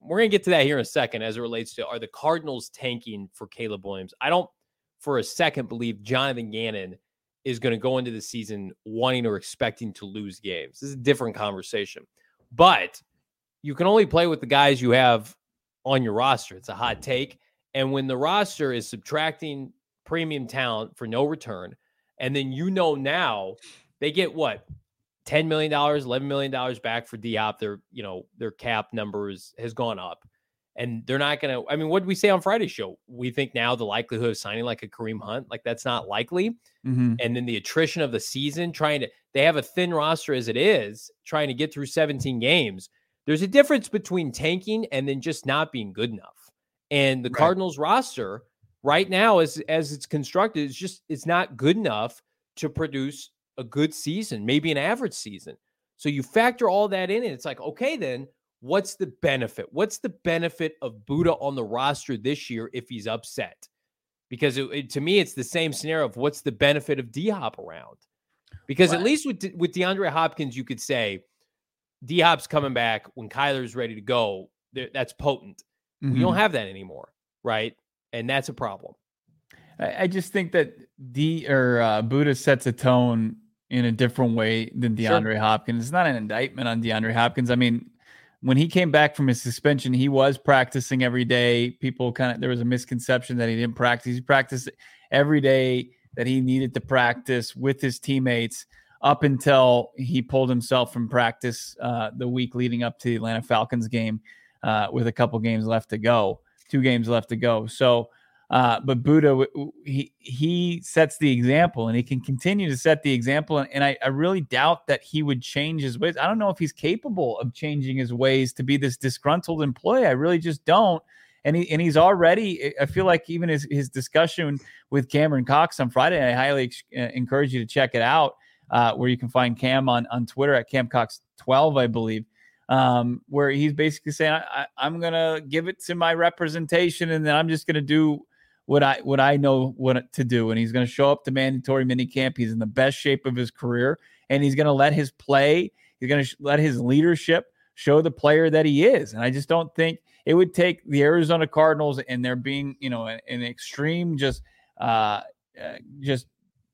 we're going to get to that here in a second as it relates to, are the Cardinals tanking for Caleb Williams? I don't for a second believe Jonathan Gannon is going to go into the season wanting or expecting to lose games. This is a different conversation. But you can only play with the guys you have on your roster. It's a hot take. And when the roster is subtracting premium talent for no return, and then you know now they get what? ten million dollars, eleven million dollars back for D-Hop. Their, you know, their cap numbers has gone up. And they're not going to, I mean, what did we say on Friday's show? We think now the likelihood of signing like a Kareem Hunt, like that's not likely. Mm-hmm. And then the attrition of the season, trying to, they have a thin roster as it is, trying to get through seventeen games. There's a difference between tanking and then just not being good enough. And the Right. Cardinals roster right now, as, as it's constructed, it's just, it's not good enough to produce a good season, maybe an average season. So you factor all that in and it's like, okay, then what's the benefit? What's the benefit of Buddha on the roster this year if he's upset? Because it, it, to me, it's the same scenario of what's the benefit of D-Hop around? Because Right. at least with, with DeAndre Hopkins, you could say D-Hop's coming back when Kyler's ready to go. That's potent. Mm-hmm. We don't have that anymore, right? And that's a problem. I, I just think that D or uh, Buddha sets a tone in a different way than DeAndre Sure. Hopkins. It's not an indictment on DeAndre Hopkins. I mean, when he came back from his suspension, he was practicing every day. People kind of, there was a misconception that he didn't practice. He practiced every day that he needed to practice with his teammates up until he pulled himself from practice uh, the week leading up to the Atlanta Falcons game uh, with a couple games left to go, two games left to go. So, uh, but Buddha, he, he sets the example and he can continue to set the example. And, and I, I really doubt that he would change his ways. I don't know if he's capable of changing his ways to be this disgruntled employee. I really just don't. And he, and he's already, I feel like even his, his discussion with Cameron Cox on Friday, I highly encourage you to check it out, uh, where you can find Cam on, on Twitter at Cam Cox twelve, I believe. Um, where he's basically saying, I, I, I'm going to give it to my representation and then I'm just going to do what I what I know what to do. And he's going to show up to mandatory minicamp. He's in the best shape of his career, and he's going to let his play, he's going to sh- let his leadership show the player that he is. And I just don't think it would take the Arizona Cardinals and there being, you know, an, an extreme just uh, uh, just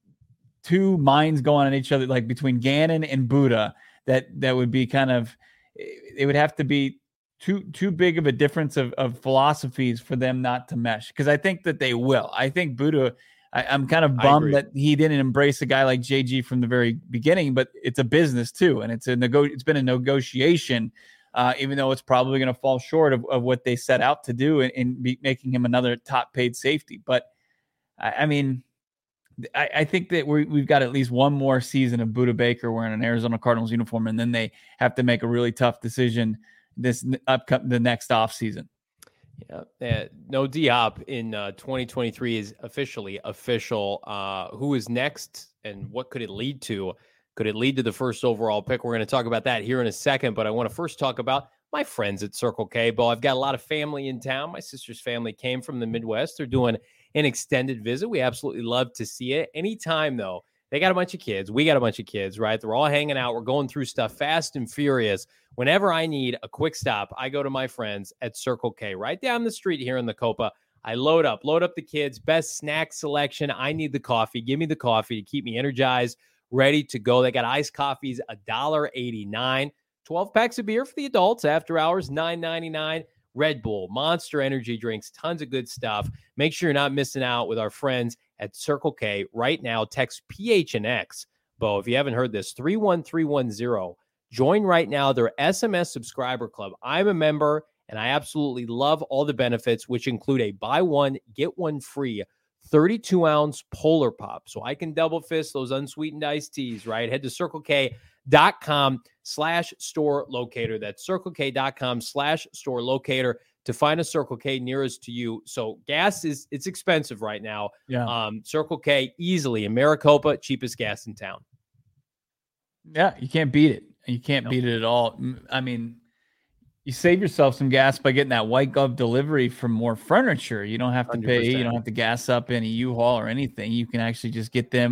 two minds going on each other, like between Gannon and Buddha, that that would be kind of, it would have to be too too big of a difference of, of philosophies for them not to mesh. Because I think that they will. I think Buddha, I, I'm kind of bummed that he didn't embrace a guy like J G from the very beginning, but it's a business too. And it's a nego- it's been a negotiation, uh, even though it's probably going to fall short of, of what they set out to do in, in be making him another top paid safety. But I, I mean, I, I think that we we've got at least one more season of Buddha Baker wearing an Arizona Cardinals uniform, and then they have to make a really tough decision this upcoming the next off season. Yeah, uh, no D-Hop in uh, twenty twenty-three is officially official. Uh, who is next, and what could it lead to? Could it lead to the first overall pick? We're going to talk about that here in a second, but I want to first talk about my friends at Circle K. Bo, I've got a lot of family in town. My sister's family came from the Midwest. They're doing an extended visit. We absolutely love to see it. Anytime, though, they got a bunch of kids. We got a bunch of kids, right? They're all hanging out. We're going through stuff fast and furious. Whenever I need a quick stop, I go to my friends at Circle K right down the street here in the Copa. I load up, load up the kids, best snack selection. I need the coffee. Give me the coffee to keep me energized, ready to go. They got iced coffees, one dollar and eighty-nine cents. twelve packs of beer for the adults, after hours, nine ninety-nine. Red Bull, Monster energy drinks, tons of good stuff. Make sure you're not missing out with our friends at Circle K right now. Text P H N X, Bo, if you haven't heard this, three one three one zero. Join right now their S M S subscriber club. I'm a member, and I absolutely love all the benefits, which include a buy one, get one free thirty-two ounce Polar Pop. So I can double fist those unsweetened iced teas, right? Head to Circle K dot com slash store locator. That's Circle K dot com slash store locator to find a Circle K nearest to you. So gas is, it's expensive right now. Yeah. Um, Circle K easily in Maricopa, cheapest gas in town. Yeah. You can't beat it. You can't Nope. beat it at all. I mean, you save yourself some gas by getting that white glove delivery for more furniture. You don't have to one hundred pay, percent. you don't have to gas up any U-Haul or anything. You can actually just get them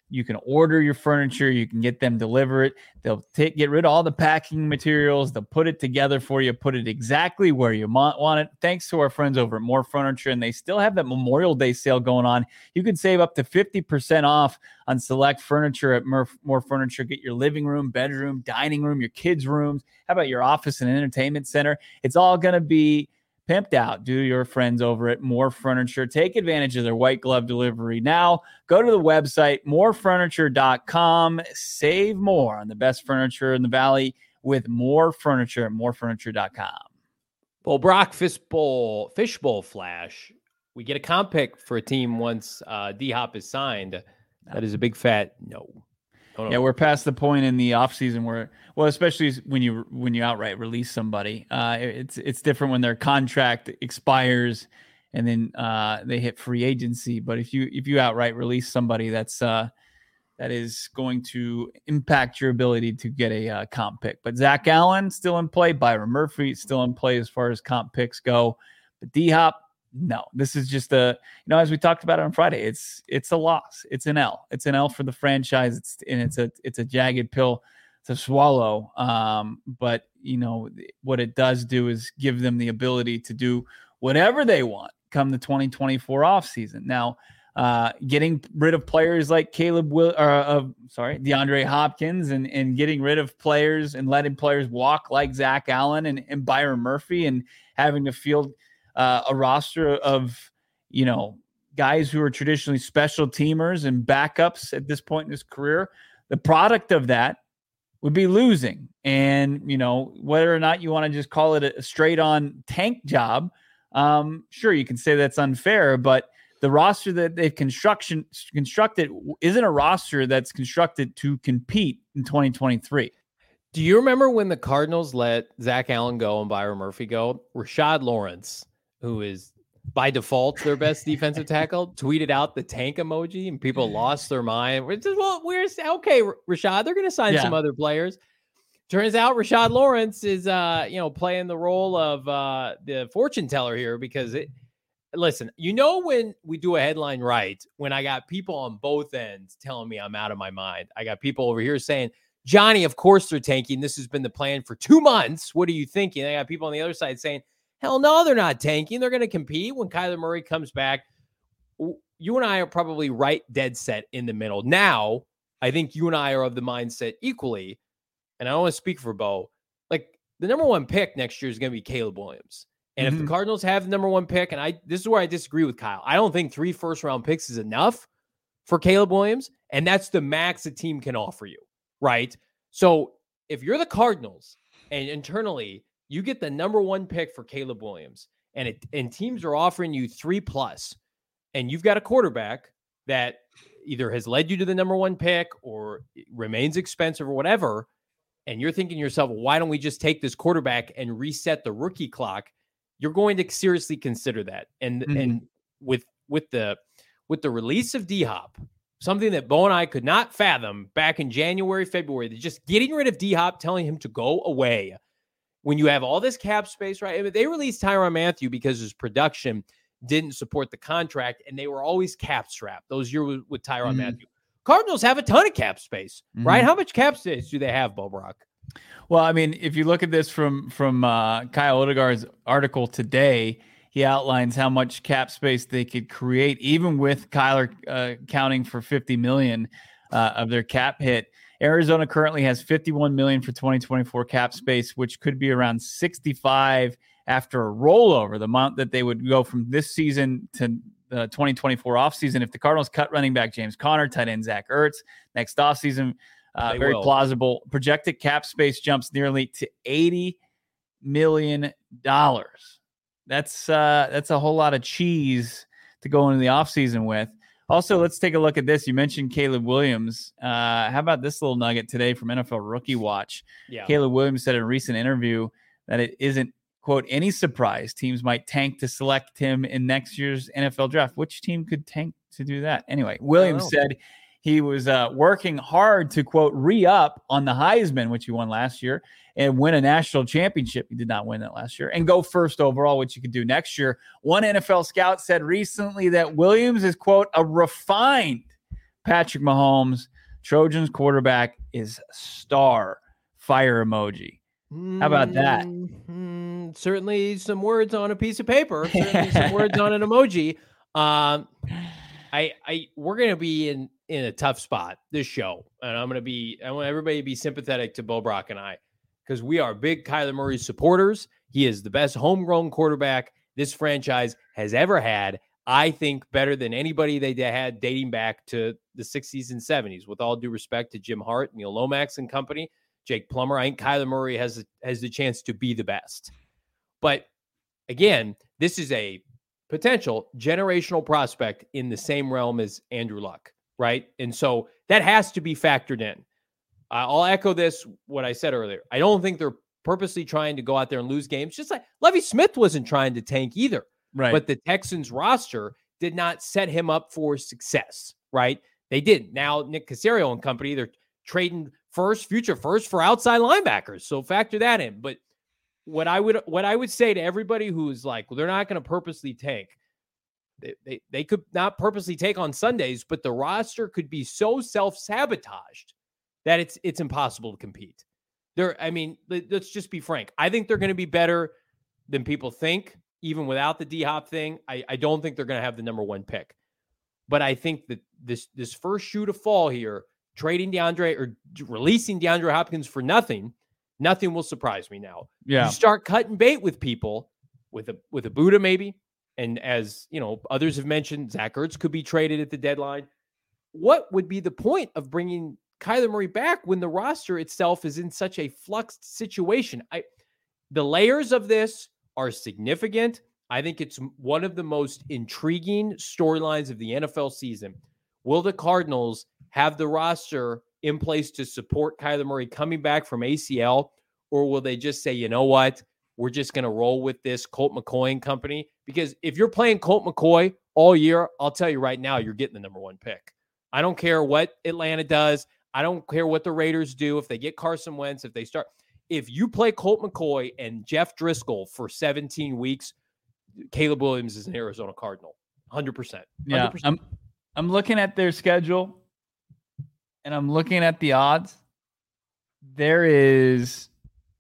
You can order your furniture. You can get them deliver it. They'll take, get rid of all the packing materials. They'll put it together for you, put it exactly where you want it. Thanks to our friends over at More Furniture. And they still have that Memorial Day sale going on. You can save up to fifty percent off on select furniture at More, More Furniture. Get your living room, bedroom, dining room, your kids' rooms. How about your office and entertainment center? It's all going to be pimped out. Do your friends over at More Furniture. Take advantage of their white glove delivery now. Go to the website, more furniture dot com. Save more on the best furniture in the Valley with More Furniture at more furniture dot com. Well, Brock, Fishbowl, Fishbowl Flash. We get a comp pick for a team once uh, D-Hop is signed. That is a big fat no. no, no. Yeah, we're past the point in the offseason where, well, especially when you when you outright release somebody. Uh, it's it's different when their contract expires and then uh, they hit free agency. But if you if you outright release somebody, that's uh, that is going to impact your ability to get a uh, comp pick. But Zach Allen still in play. Byron Murphy still in play as far as comp picks go. But D-Hop, no. This is just a, you know, as we talked about on Friday, it's it's a loss. It's an L. It's an L for the franchise. It's and it's a it's a jagged pill to swallow. Um, but you know what it does do is give them the ability to do whatever they want come the twenty twenty-four offseason. Now, uh, getting rid of players like Caleb Will, or uh, sorry, DeAndre Hopkins, and and getting rid of players and letting players walk like Zach Allen and, and Byron Murphy, and having to field uh, a roster of, you know, guys who are traditionally special teamers and backups at this point in his career. The product of that would be losing. And, you know, whether or not you want to just call it a straight on tank job, um, sure, you can say that's unfair, but the roster that they've construction constructed isn't a roster that's constructed to compete in twenty twenty-three. Do you remember when the Cardinals let Zach Allen go and Byron Murphy go? Rashad Lawrence, who is by default their best defensive tackle, tweeted out the tank emoji, and people lost their mind. We're just, well, we're okay, Rashad. They're going to sign yeah. some other players. Turns out Rashad Lawrence is, uh, you know, playing the role of uh, the fortune teller here because it. Listen, you know, when we do a headline right, when I got people on both ends telling me I'm out of my mind, I got people over here saying, Johnny, of course they're tanking. This has been the plan for two months. What are you thinking? I got people on the other side saying, hell no, they're not tanking. They're going to compete when Kyler Murray comes back. You and I are probably right dead set in the middle. Now, I think you and I are of the mindset equally, and I don't want to speak for Bo, like the number one pick next year is going to be Caleb Williams. And mm-hmm. if the Cardinals have the number one pick, and I this is where I disagree with Kyle. I don't think three first-round picks is enough for Caleb Williams, and that's the max a team can offer you, right? So if you're the Cardinals and internally you get the number one pick for Caleb Williams, and it, and teams are offering you three plus, and you've got a quarterback that either has led you to the number one pick or remains expensive or whatever, and you're thinking to yourself, well, why don't we just take this quarterback and reset the rookie clock? You're going to seriously consider that. And mm-hmm. and with with the with the release of D-Hop, something that Bo and I could not fathom back in January, February, just getting rid of D-Hop, telling him to go away. When you have all this cap space, right? I mean, they released Tyrann Mathieu because his production didn't support the contract, and they were always cap strapped those years with, with Tyrann mm-hmm. Mathieu. Cardinals have a ton of cap space, mm-hmm. right? How much cap space do they have, Bo Brock? Well, I mean, if you look at this from from uh, Kyle Odegaard's article today, he outlines how much cap space they could create, even with Kyler uh, counting for fifty million dollars uh, of their cap hit. Arizona currently has fifty-one million dollars for twenty twenty-four cap space, which could be around sixty-five after a rollover, the amount that they would go from this season to the twenty twenty-four offseason. If the Cardinals cut running back James Conner, tight end Zach Ertz next offseason, Uh, very will. plausible. Projected cap space jumps nearly to eighty million dollars. That's uh, that's a whole lot of cheese to go into the offseason with. Also, let's take a look at this. You mentioned Caleb Williams. Uh, how about this little nugget today from N F L Rookie Watch? Yeah. Caleb Williams said in a recent interview that it isn't, quote, any surprise teams might tank to select him in next year's N F L draft. Which team could tank to do that? Anyway, Williams said he was uh, working hard to, quote, re-up on the Heisman, which he won last year, and win a national championship. He did not win that last year. And go first overall, which you could do next year. One N F L scout said recently that Williams is, quote, a refined Patrick Mahomes, Trojans quarterback, is star. Fire emoji. How about that? Mm-hmm. Certainly some words on a piece of paper. Certainly some words on an emoji. Um, I, I, we're gonna be in in a tough spot this show, and I'm gonna be. I want everybody to be sympathetic to Bo Brock and I, because we are big Kyler Murray supporters. He is the best homegrown quarterback this franchise has ever had. I think better than anybody they had dating back to the sixties and seventies. With all due respect to Jim Hart, Neil Lomax and company. Jake Plummer, I think Kyler Murray has has the chance to be the best. But again, this is a potential generational prospect in the same realm as Andrew Luck, right? And so that has to be factored in. Uh, I'll echo this, what I said earlier. I don't think they're purposely trying to go out there and lose games. Just like Lovie Smith wasn't trying to tank either. Right. But the Texans roster did not set him up for success, right? They didn't. Now, Nick Caserio and company, they're trading first, future first for outside linebackers. So factor that in. But what I would what I would say to everybody who is like, well, they're not going to purposely tank. They, they, they could not purposely take on Sundays, but the roster could be so self-sabotaged that it's it's impossible to compete. They're, I mean, let's just be frank. I think they're going to be better than people think, even without the D-Hop thing. I, I don't think they're going to have the number one pick. But I think that this this first shoe to fall here, trading DeAndre or releasing DeAndre Hopkins for nothing, nothing will surprise me now. Yeah. You start cutting bait with people, with a with a Buddha maybe, and as you know, others have mentioned, Zach Ertz could be traded at the deadline. What would be the point of bringing Kyler Murray back when the roster itself is in such a fluxed situation? I, the layers of this are significant. I think it's one of the most intriguing storylines of the N F L season. Will the Cardinals have the roster in place to support Kyler Murray coming back from A C L, or will they just say, you know what, we're just going to roll with this Colt McCoy and company? Because if you're playing Colt McCoy all year, I'll tell you right now, you're getting the number one pick. I don't care what Atlanta does. I don't care what the Raiders do. If they get Carson Wentz, if they start, if you play Colt McCoy and Jeff Driscoll for seventeen weeks, Caleb Williams is an Arizona Cardinal. one hundred percent. one hundred percent. Yeah, I'm, I'm looking at their schedule, and I'm looking at the odds. There is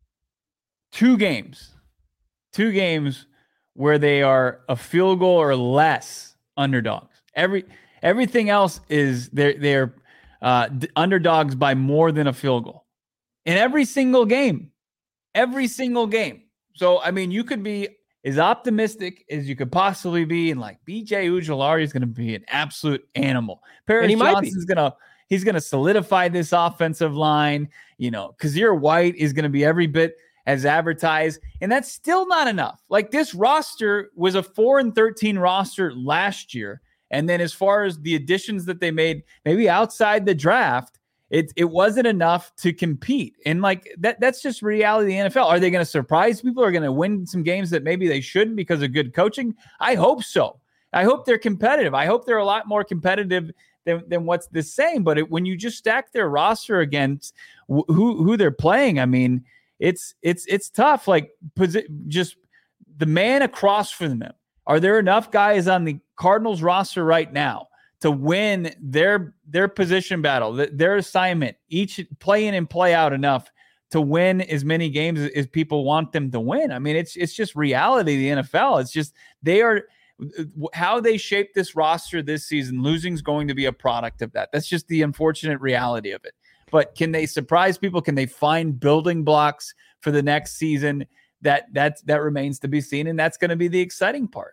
two games, two games where they are a field goal or less underdogs. Every everything else is they're they're uh, underdogs by more than a field goal in every single game, every single game. So I mean, you could be as optimistic as you could possibly be, and like B J Ujulari is going to be an absolute animal. Paris Johnson's going to he's going to solidify this offensive line. You know, Kazir White is going to be every bit as advertised, and that's still not enough. Like, this roster was a four and thirteen roster last year, and then as far as the additions that they made, maybe outside the draft, it it wasn't enough to compete. And like that, that's just reality of the N F L. Are they going to surprise people? Are going to win some games that maybe they shouldn't because of good coaching? I hope so. I hope they're competitive. I hope they're a lot more competitive than, than what's the same. But it, when you just stack their roster against wh- who who they're playing, I mean, it's it's it's tough. Like, posi- just the man across from them. Are there enough guys on the Cardinals roster right now to win their their position battle, their assignment, each play in and play out enough to win as many games as people want them to win? I mean, it's it's just reality of the N F L. It's just they are how they shape this roster this season. Losing is going to be a product of that. That's just the unfortunate reality of it. But can they surprise people? Can they find building blocks for the next season? That that that remains to be seen, and that's going to be the exciting part.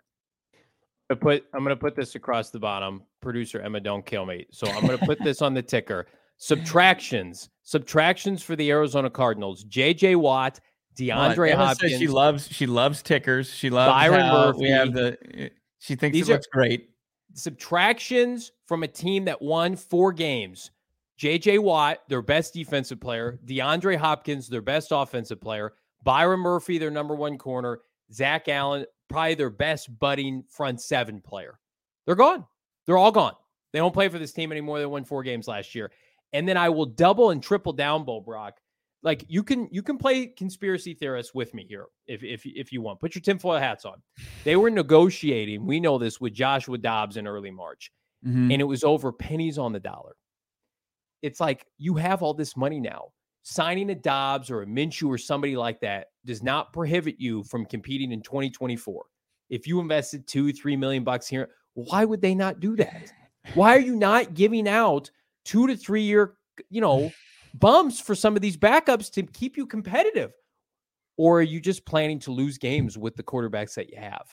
I put I'm going to put this across the bottom. Producer Emma, don't kill me. So I'm going to put this on the ticker. Subtractions, subtractions for the Arizona Cardinals. J J Watt, DeAndre Emma Hopkins. Says she loves she loves tickers. She loves Byron how Murphy. We have the. She thinks These it looks are great. Subtractions from a team that won four games. J J Watt, their best defensive player. DeAndre Hopkins, their best offensive player. Byron Murphy, their number one corner. Zach Allen, probably their best budding front seven player. They're gone. They're all gone. They don't play for this team anymore. They won four games last year. And then I will double and triple down, Bo Brock. Like, you can you can play conspiracy theorists with me here if, if, if you want. Put your tinfoil hats on. They were negotiating, we know this, with Joshua Dobbs in early March. Mm-hmm. and it was over pennies on the dollar. It's like you have all this money now. Signing a Dobbs or a Minshew or somebody like that does not prohibit you from competing in twenty twenty-four. If you invested two, three million bucks here, why would they not do that? Why are you not giving out two to three year, you know, bumps for some of these backups to keep you competitive? Or are you just planning to lose games with the quarterbacks that you have?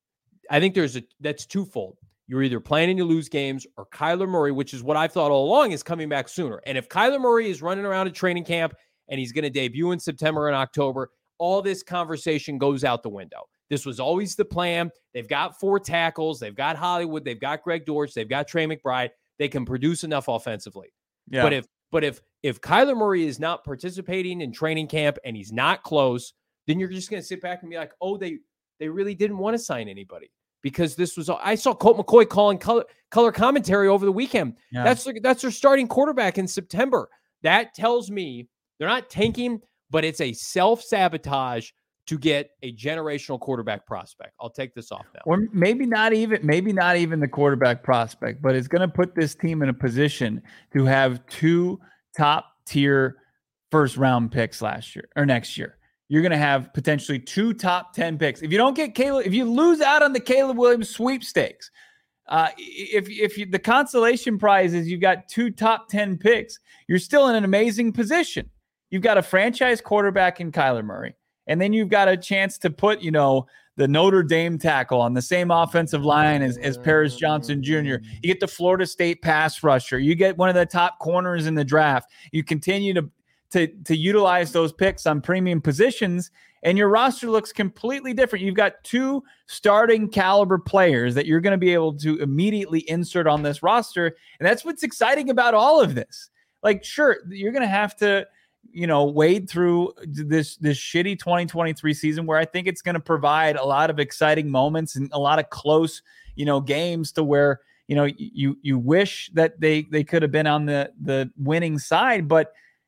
I think there's a, that's twofold. You're either planning to lose games, or Kyler Murray, which is what I've thought all along, is coming back sooner. And if Kyler Murray is running around at training camp and he's going to debut in September and October, all this conversation goes out the window. This was always the plan. They've got four tackles. They've got Hollywood. They've got Greg Dortch. They've got Trey McBride. They can produce enough offensively. Yeah. But if but if if Kyler Murray is not participating in training camp and he's not close, then you're just going to sit back and be like, oh, they they really didn't want to sign anybody. Because this was, I saw Colt McCoy calling color, color commentary over the weekend. Yeah. That's that's their starting quarterback in September. That tells me they're not tanking, but it's a self-sabotage to get a generational quarterback prospect. I'll take this off now. Or maybe not even, maybe not even the quarterback prospect, but it's going to put this team in a position to have two top tier first round picks last year or next year. You're going to have potentially two top ten picks. If you don't get Caleb, if you lose out on the Caleb Williams sweepstakes, uh, if if you, the consolation prize is you've got two top ten picks, you're still in an amazing position. You've got a franchise quarterback in Kyler Murray, and then you've got a chance to put, you know, the Notre Dame tackle on the same offensive line as, as Paris Johnson Junior You get the Florida State pass rusher. You get one of the top corners in the draft. You continue to To, to utilize those picks on premium positions, and your roster looks completely different. You've got two starting caliber players that you're going to be able to immediately insert on this roster, and that's what's exciting about all of this. Like, sure, you're going to have to, you know, wade through this this shitty twenty twenty-three season where I think it's going to provide a lot of exciting moments and a lot of close, you know, games to where, you know, you you wish that they they could have been on the the winning side, but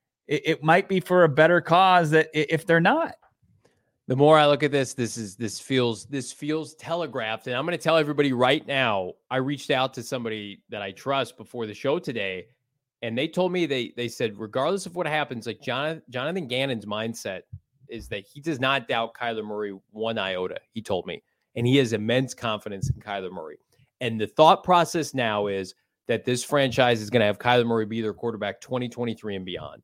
it might be for a better cause that if they're not. The more I look at this, this is this feels this feels telegraphed. And I'm going to tell everybody right now, I reached out to somebody that I trust before the show today, and they told me they they said, regardless of what happens, like Jonathan, Jonathan Gannon's mindset is that he does not doubt Kyler Murray one iota, he told me. And he has immense confidence in Kyler Murray. And the thought process now is that this franchise is going to have Kyler Murray be their quarterback twenty twenty-three and beyond.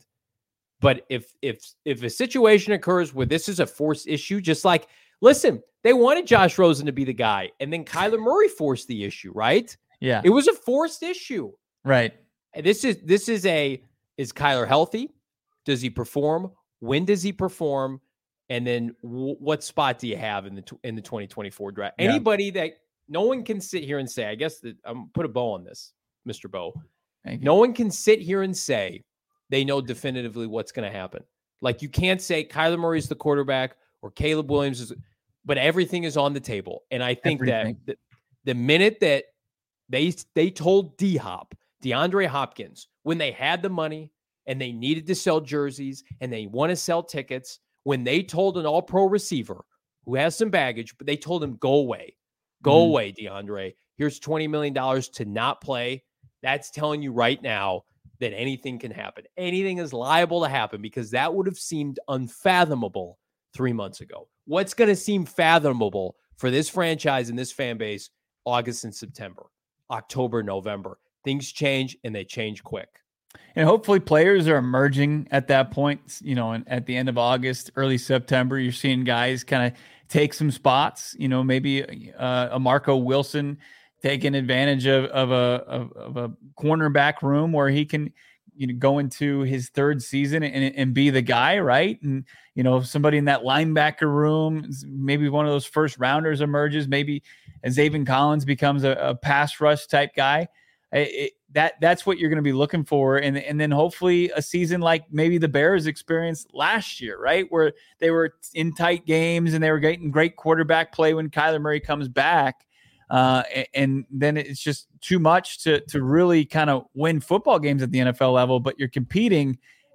But if if if a situation occurs where this is a forced issue, just like, listen, they wanted Josh Rosen to be the guy, and then Kyler Murray forced the issue, right? Yeah. It was a forced issue. Right. And this is this is a, is Kyler healthy? Does he perform? When does he perform? And then w- what spot do you have in the in the twenty twenty-four draft? Yeah. Anybody that no one can sit here and say, I guess that I'm put a bow on this, Mister Bo. No one can sit here and say they know definitively what's going to happen. Like, you can't say Kyler Murray's the quarterback or Caleb Williams is, but everything is on the table. And I think everything. that the, the minute that they they told D-Hop, DeAndre Hopkins, when they had the money and they needed to sell jerseys and they want to sell tickets, when they told an all-pro receiver who has some baggage, but they told him, go away, go mm-hmm. away, DeAndre. Here's twenty million dollars to not play. That's telling you right now that anything can happen. Anything is liable to happen, because that would have seemed unfathomable three months ago. What's going to seem fathomable for this franchise and this fan base August and September, October, November? Things change, and they change quick. And hopefully players are emerging at that point, you know, and at the end of August, early September, you're seeing guys kind of take some spots, you know, maybe uh, a Marco Wilson taking advantage of, of a of, of a cornerback room where he can, you know, go into his third season and, and be the guy, right? And, you know, somebody in that linebacker room, maybe one of those first rounders emerges, maybe Zaven Collins becomes a, a pass rush type guy. It, that that's what you're going to be looking for. And, and then hopefully a season like maybe the Bears experienced last year, right? Where they were in tight games and they were getting great quarterback play when Kyler Murray comes back. Uh, and then it's just too much to to really kind of win football games at the N F L level, but you're competing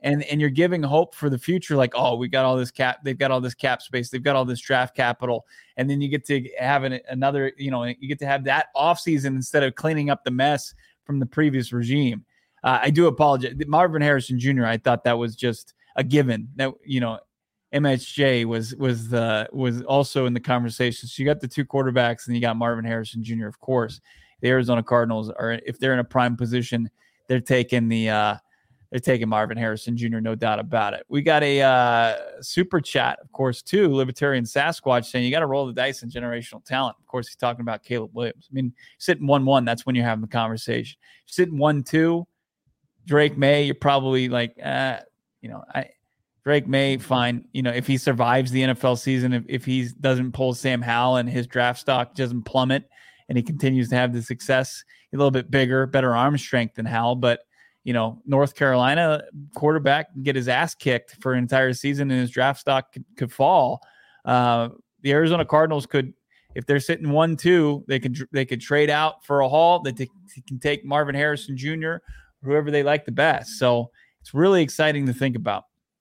and and you're giving hope for the future. Like, oh, we got all this cap, they've got all this cap space, they've got all this draft capital, and then you get to have an, another, you know, you get to have that offseason instead of cleaning up the mess from the previous regime. Uh, I do apologize, Marvin Harrison Junior I thought that was just a given that, you know, M H J was was the was also in the conversation. So you got the two quarterbacks, and you got Marvin Harrison Junior Of course, the Arizona Cardinals are, if they're in a prime position, they're taking the uh, they're taking Marvin Harrison Junior No doubt about it. We got a uh, super chat, of course, too. Libertarian Sasquatch saying you got to roll the dice in generational talent. Of course, he's talking about Caleb Williams. I mean, sitting one one, that's when you're having the conversation. Sitting one two, Drake May, you're probably like, uh, you know, I. Drake May, fine. You know, if he survives the N F L season, if, if he doesn't pull Sam Howell and his draft stock doesn't plummet and he continues to have the success, a little bit bigger, better arm strength than Howell. But, you know, North Carolina quarterback can get his ass kicked for an entire season and his draft stock could, could fall. Uh, the Arizona Cardinals could, if they're sitting one two, they could they could trade out for a haul. They t- can take Marvin Harrison Junior, whoever they like the best. So it's really exciting to think about.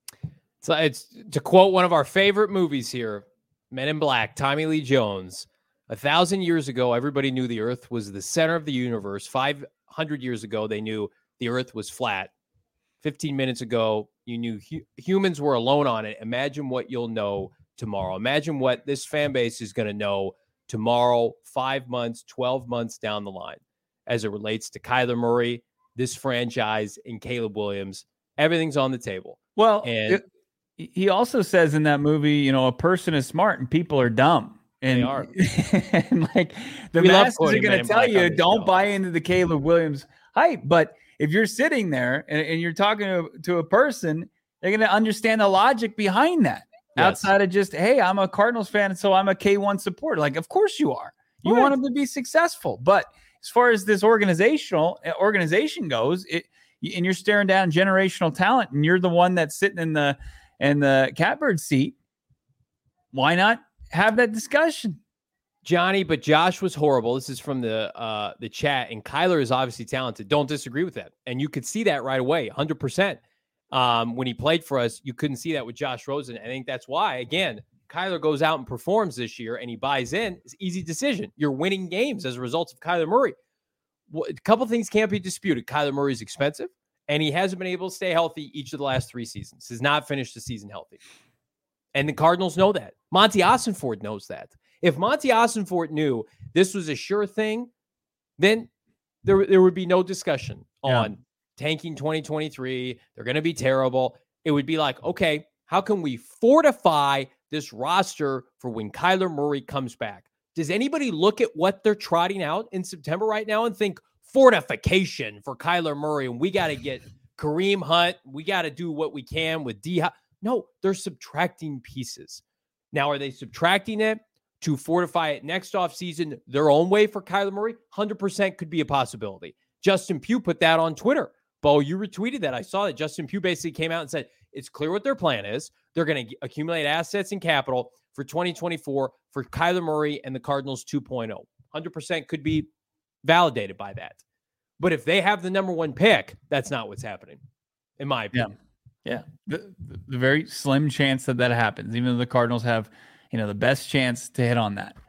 So it's to quote one of our favorite movies here, Men in Black, Tommy Lee Jones. A thousand years ago, everybody knew the earth was the center of the universe. five hundred years ago, they knew the earth was flat. fifteen minutes ago, you knew hu- humans were alone on it. Imagine what you'll know tomorrow. Imagine what this fan base is going to know tomorrow, five months, twelve months down the line, as it relates to Kyler Murray, this franchise, and Caleb Williams. Everything's on the table. Well, and it- he also says in that movie, you know, a person is smart and people are dumb. And, they are. and like the We love masses are quoting going Men to in tell Black you, on this don't show. buy into the Caleb Williams hype. But if you're sitting there and, and you're talking to, to a person, they're going to understand the logic behind that. Yes. Outside of just, hey, I'm a Cardinals fan, and so I'm a K one supporter. Like, of course you are. You Right. want them to be successful. But as far as this organizational organization goes, it and you're staring down generational talent, and you're the one that's sitting in the in the catbird seat. Why not have that discussion? Johnny, but Josh was horrible. This is from the uh, the chat, and Kyler is obviously talented. Don't disagree with that. And you could see that right away, one hundred percent. Um, when he played for us, you couldn't see that with Josh Rosen. I think that's why, again, Kyler goes out and performs this year and he buys in. It's an easy decision. You're winning games as a result of Kyler Murray. Well, a couple things can't be disputed. Kyler Murray is expensive, and he hasn't been able to stay healthy each of the last three seasons. Has not finished the season healthy. And the Cardinals know that. Monty Ossenford knows that. If Monty Ossenford knew this was a sure thing, then there, there would be no discussion Yeah. on tanking twenty twenty-three. They're going to be terrible. It would be like, okay, how can we fortify this roster for when Kyler Murray comes back? Does anybody look at what they're trotting out in September right now and think fortification for Kyler Murray, and we got to get Kareem Hunt, we got to do what we can with D Hop? No, they're subtracting pieces. Now, are they subtracting it to fortify it next offseason their own way for Kyler Murray? one hundred percent could be a possibility. Justin Pugh put that on Twitter. Bo, you retweeted that. I saw that. Justin Pugh basically came out and said, it's clear what their plan is. They're going to accumulate assets and capital for twenty twenty-four for Kyler Murray and the Cardinals two point oh. one hundred percent could be validated by that. But if they have the number one pick, that's not what's happening, in my opinion. Yeah. The, the, the very slim chance that that happens, even though the Cardinals have, you know, the best chance to hit on that.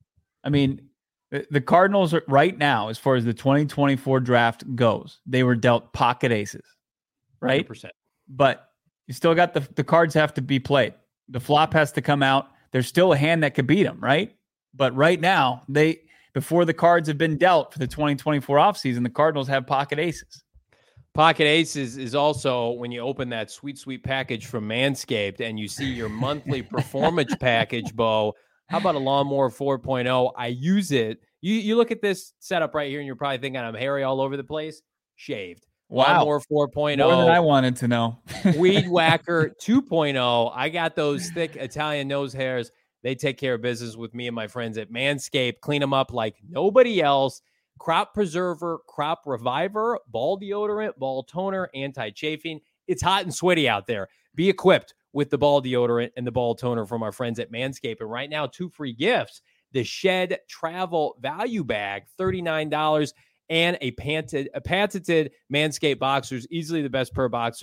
I mean, the, the Cardinals are, right now, as far as the twenty twenty-four draft goes, they were dealt pocket aces, right? one hundred percent. But you still got the, the cards have to be played. The flop has to come out. There's still a hand that could beat them, right? But right now, they before the cards have been dealt for the twenty twenty-four offseason, the Cardinals have pocket aces. Pocket Aces is also when you open that sweet, sweet package from Manscaped and you see your monthly performance package, Bo. How about a Lawnmower four point oh? I use it. You you look at this setup right here and you're probably thinking I'm hairy all over the place. Shaved. Wow. Lawnmower four point oh. More than I wanted to know. Weed Whacker two point oh. I got those thick Italian nose hairs. They take care of business with me and my friends at Manscaped. Clean them up like nobody else. Crop Preserver, Crop Reviver, Ball Deodorant, Ball Toner, Anti-Chafing. It's hot and sweaty out there. Be equipped with the Ball Deodorant and the Ball Toner from our friends at Manscaped. And right now, two free gifts. The Shed Travel Value Bag, thirty-nine dollars, and a patented, a patented Manscaped Boxers, easily the best pair of boxers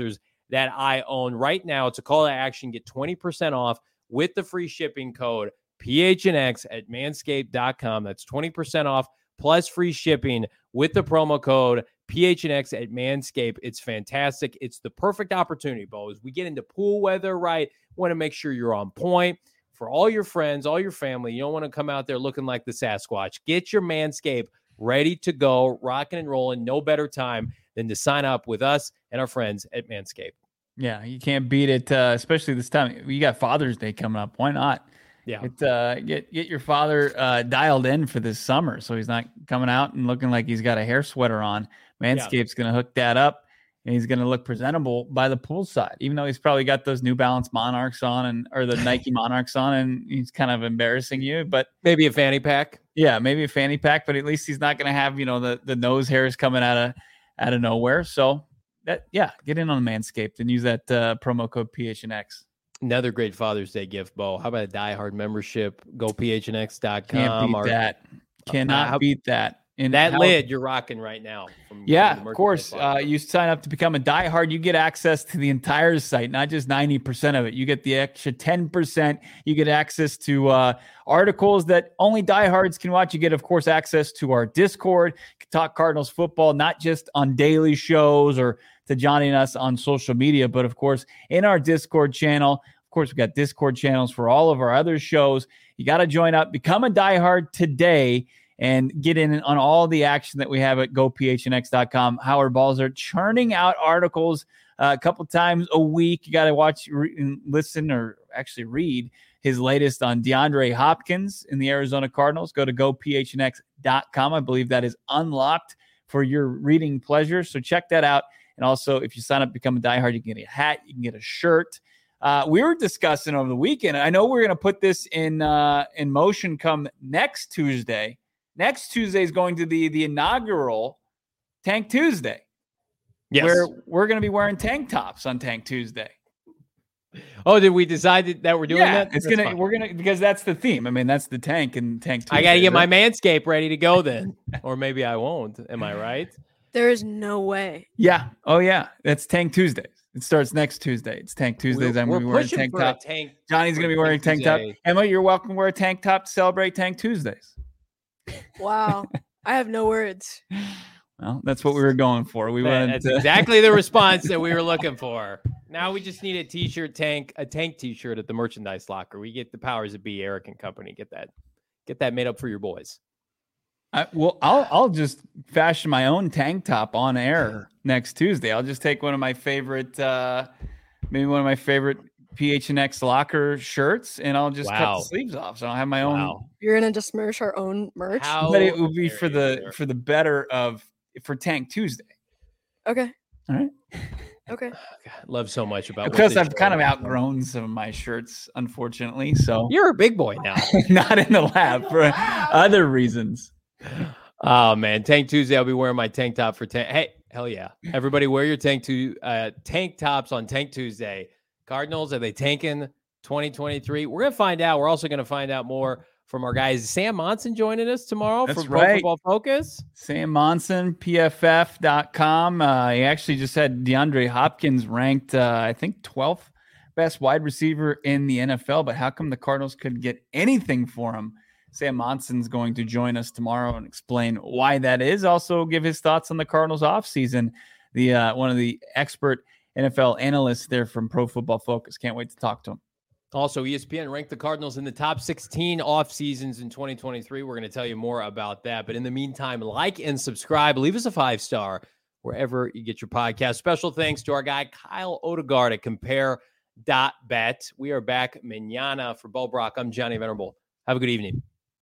that I own right now. It's a call to action. Get twenty percent off with the free shipping code P H N X at manscaped dot com. That's twenty percent off plus free shipping with the promo code P H N X at Manscaped. It's fantastic. It's the perfect opportunity, Bo. As we get into pool weather, right? Want to make sure you're on point for all your friends, all your family. You don't want to come out there looking like the Sasquatch. Get your Manscaped ready to go, rocking and rolling. No better time than to sign up with us and our friends at Manscaped. Yeah, you can't beat it, uh, especially this time. You got Father's Day coming up. Why not? Yeah, Get, uh, get get your father uh, dialed in for this summer, so he's not coming out and looking like he's got a hair sweater on. Manscaped's yeah. going to hook that up, and he's going to look presentable by the poolside, even though he's probably got those New Balance Monarchs on and or the Nike Monarchs on, and he's kind of embarrassing you. But maybe a fanny pack. Yeah, maybe a fanny pack, but at least he's not going to have, you know, the the nose hairs coming out of out of nowhere. So that yeah, get in on Manscaped and use that uh, promo code P H N X. Another great Father's Day gift, Bo. How about a Die Hard membership? Go P H N X dot com. Can't beat or, that. Cannot uh, how, beat that. And that how, lid you're rocking right now. From, yeah, from of course. Uh, you sign up to become a diehard, you get access to the entire site, not just ninety percent of it. You get the extra ten percent. You get access to uh, articles that only diehards can watch. You get, of course, access to our Discord. You can talk Cardinals football, not just on daily shows or to Johnny and us on social media, but, of course, in our Discord channel. Of course, we've got Discord channels for all of our other shows. You got to join up. Become a diehard today and get in on all the action that we have at go P H N X dot com. Howard Balzer churning out articles uh, a couple times a week. You got to watch, re- and listen, or actually read his latest on DeAndre Hopkins in the Arizona Cardinals. Go to go P H N X dot com. I believe that is unlocked for your reading pleasure. So check that out. And also, if you sign up, become a diehard, you can get a hat, you can get a shirt. Uh, we were discussing over the weekend. I know we're going to put this in uh, in motion come next Tuesday. Next Tuesday is going to be the inaugural Tank Tuesday. Yes. Where we're going to be wearing tank tops on Tank Tuesday. Oh, did we decide that we're doing yeah, that? It's That's gonna fine. We're gonna because that's the theme. I mean, that's the tank and Tank Tuesday. I got to get right? my Manscaped ready to go then, or maybe I won't. Am I right? There is no way. Yeah. Oh yeah. That's Tank Tuesdays. It starts next Tuesday. It's Tank Tuesdays. We're, I'm going to be wearing tank top. Tank Johnny's going to be wearing tank top. Emma, you're welcome to wear a tank top to celebrate Tank Tuesdays. Wow. I have no words. Well, that's what we were going for. We Man, wanted that's to... exactly the response that we were looking for. Now we just need a t-shirt tank, a tank t-shirt at the merchandise locker. We get the powers that be, Eric and company. Get that, get that made up for your boys. I, well, I'll I'll just fashion my own tank top on air next Tuesday. I'll just take one of my favorite, uh, maybe one of my favorite P H N X locker shirts, and I'll just wow. cut the sleeves off. So I'll have my own. Wow. You're gonna just merch our own merch, How but it will be for the there. for the better of for Tank Tuesday. Okay. All right. Okay. God, love so much about because I've kind of outgrown some of my shirts, unfortunately. So you're a big boy now. Not in the lab for other reasons. Oh man, Tank Tuesday. I'll be wearing my tank top for tank. Hey, hell yeah! Everybody, wear your tank to uh, tank tops on Tank Tuesday. Cardinals, are they tanking twenty twenty-three? We're gonna find out. We're also gonna find out more from our guys. Sam Monson joining us tomorrow That's for Pro right. Football Focus. Sam Monson, P F F dot com. Uh, he actually just had DeAndre Hopkins ranked, uh, I think, twelfth best wide receiver in the N F L. But how come the Cardinals couldn't get anything for him? Sam Monson's going to join us tomorrow and explain why that is. Also give his thoughts on the Cardinals offseason. The uh, one of the expert N F L analysts there from Pro Football Focus. Can't wait to talk to him. Also, E S P N ranked the Cardinals in the top sixteen off seasons in twenty twenty-three. We're going to tell you more about that. But in the meantime, like and subscribe. Leave us a five-star wherever you get your podcast. Special thanks to our guy, Kyle Odegaard at compare dot bet. We are back mañana for Bo Brock. I'm Johnny Venerable. Have a good evening.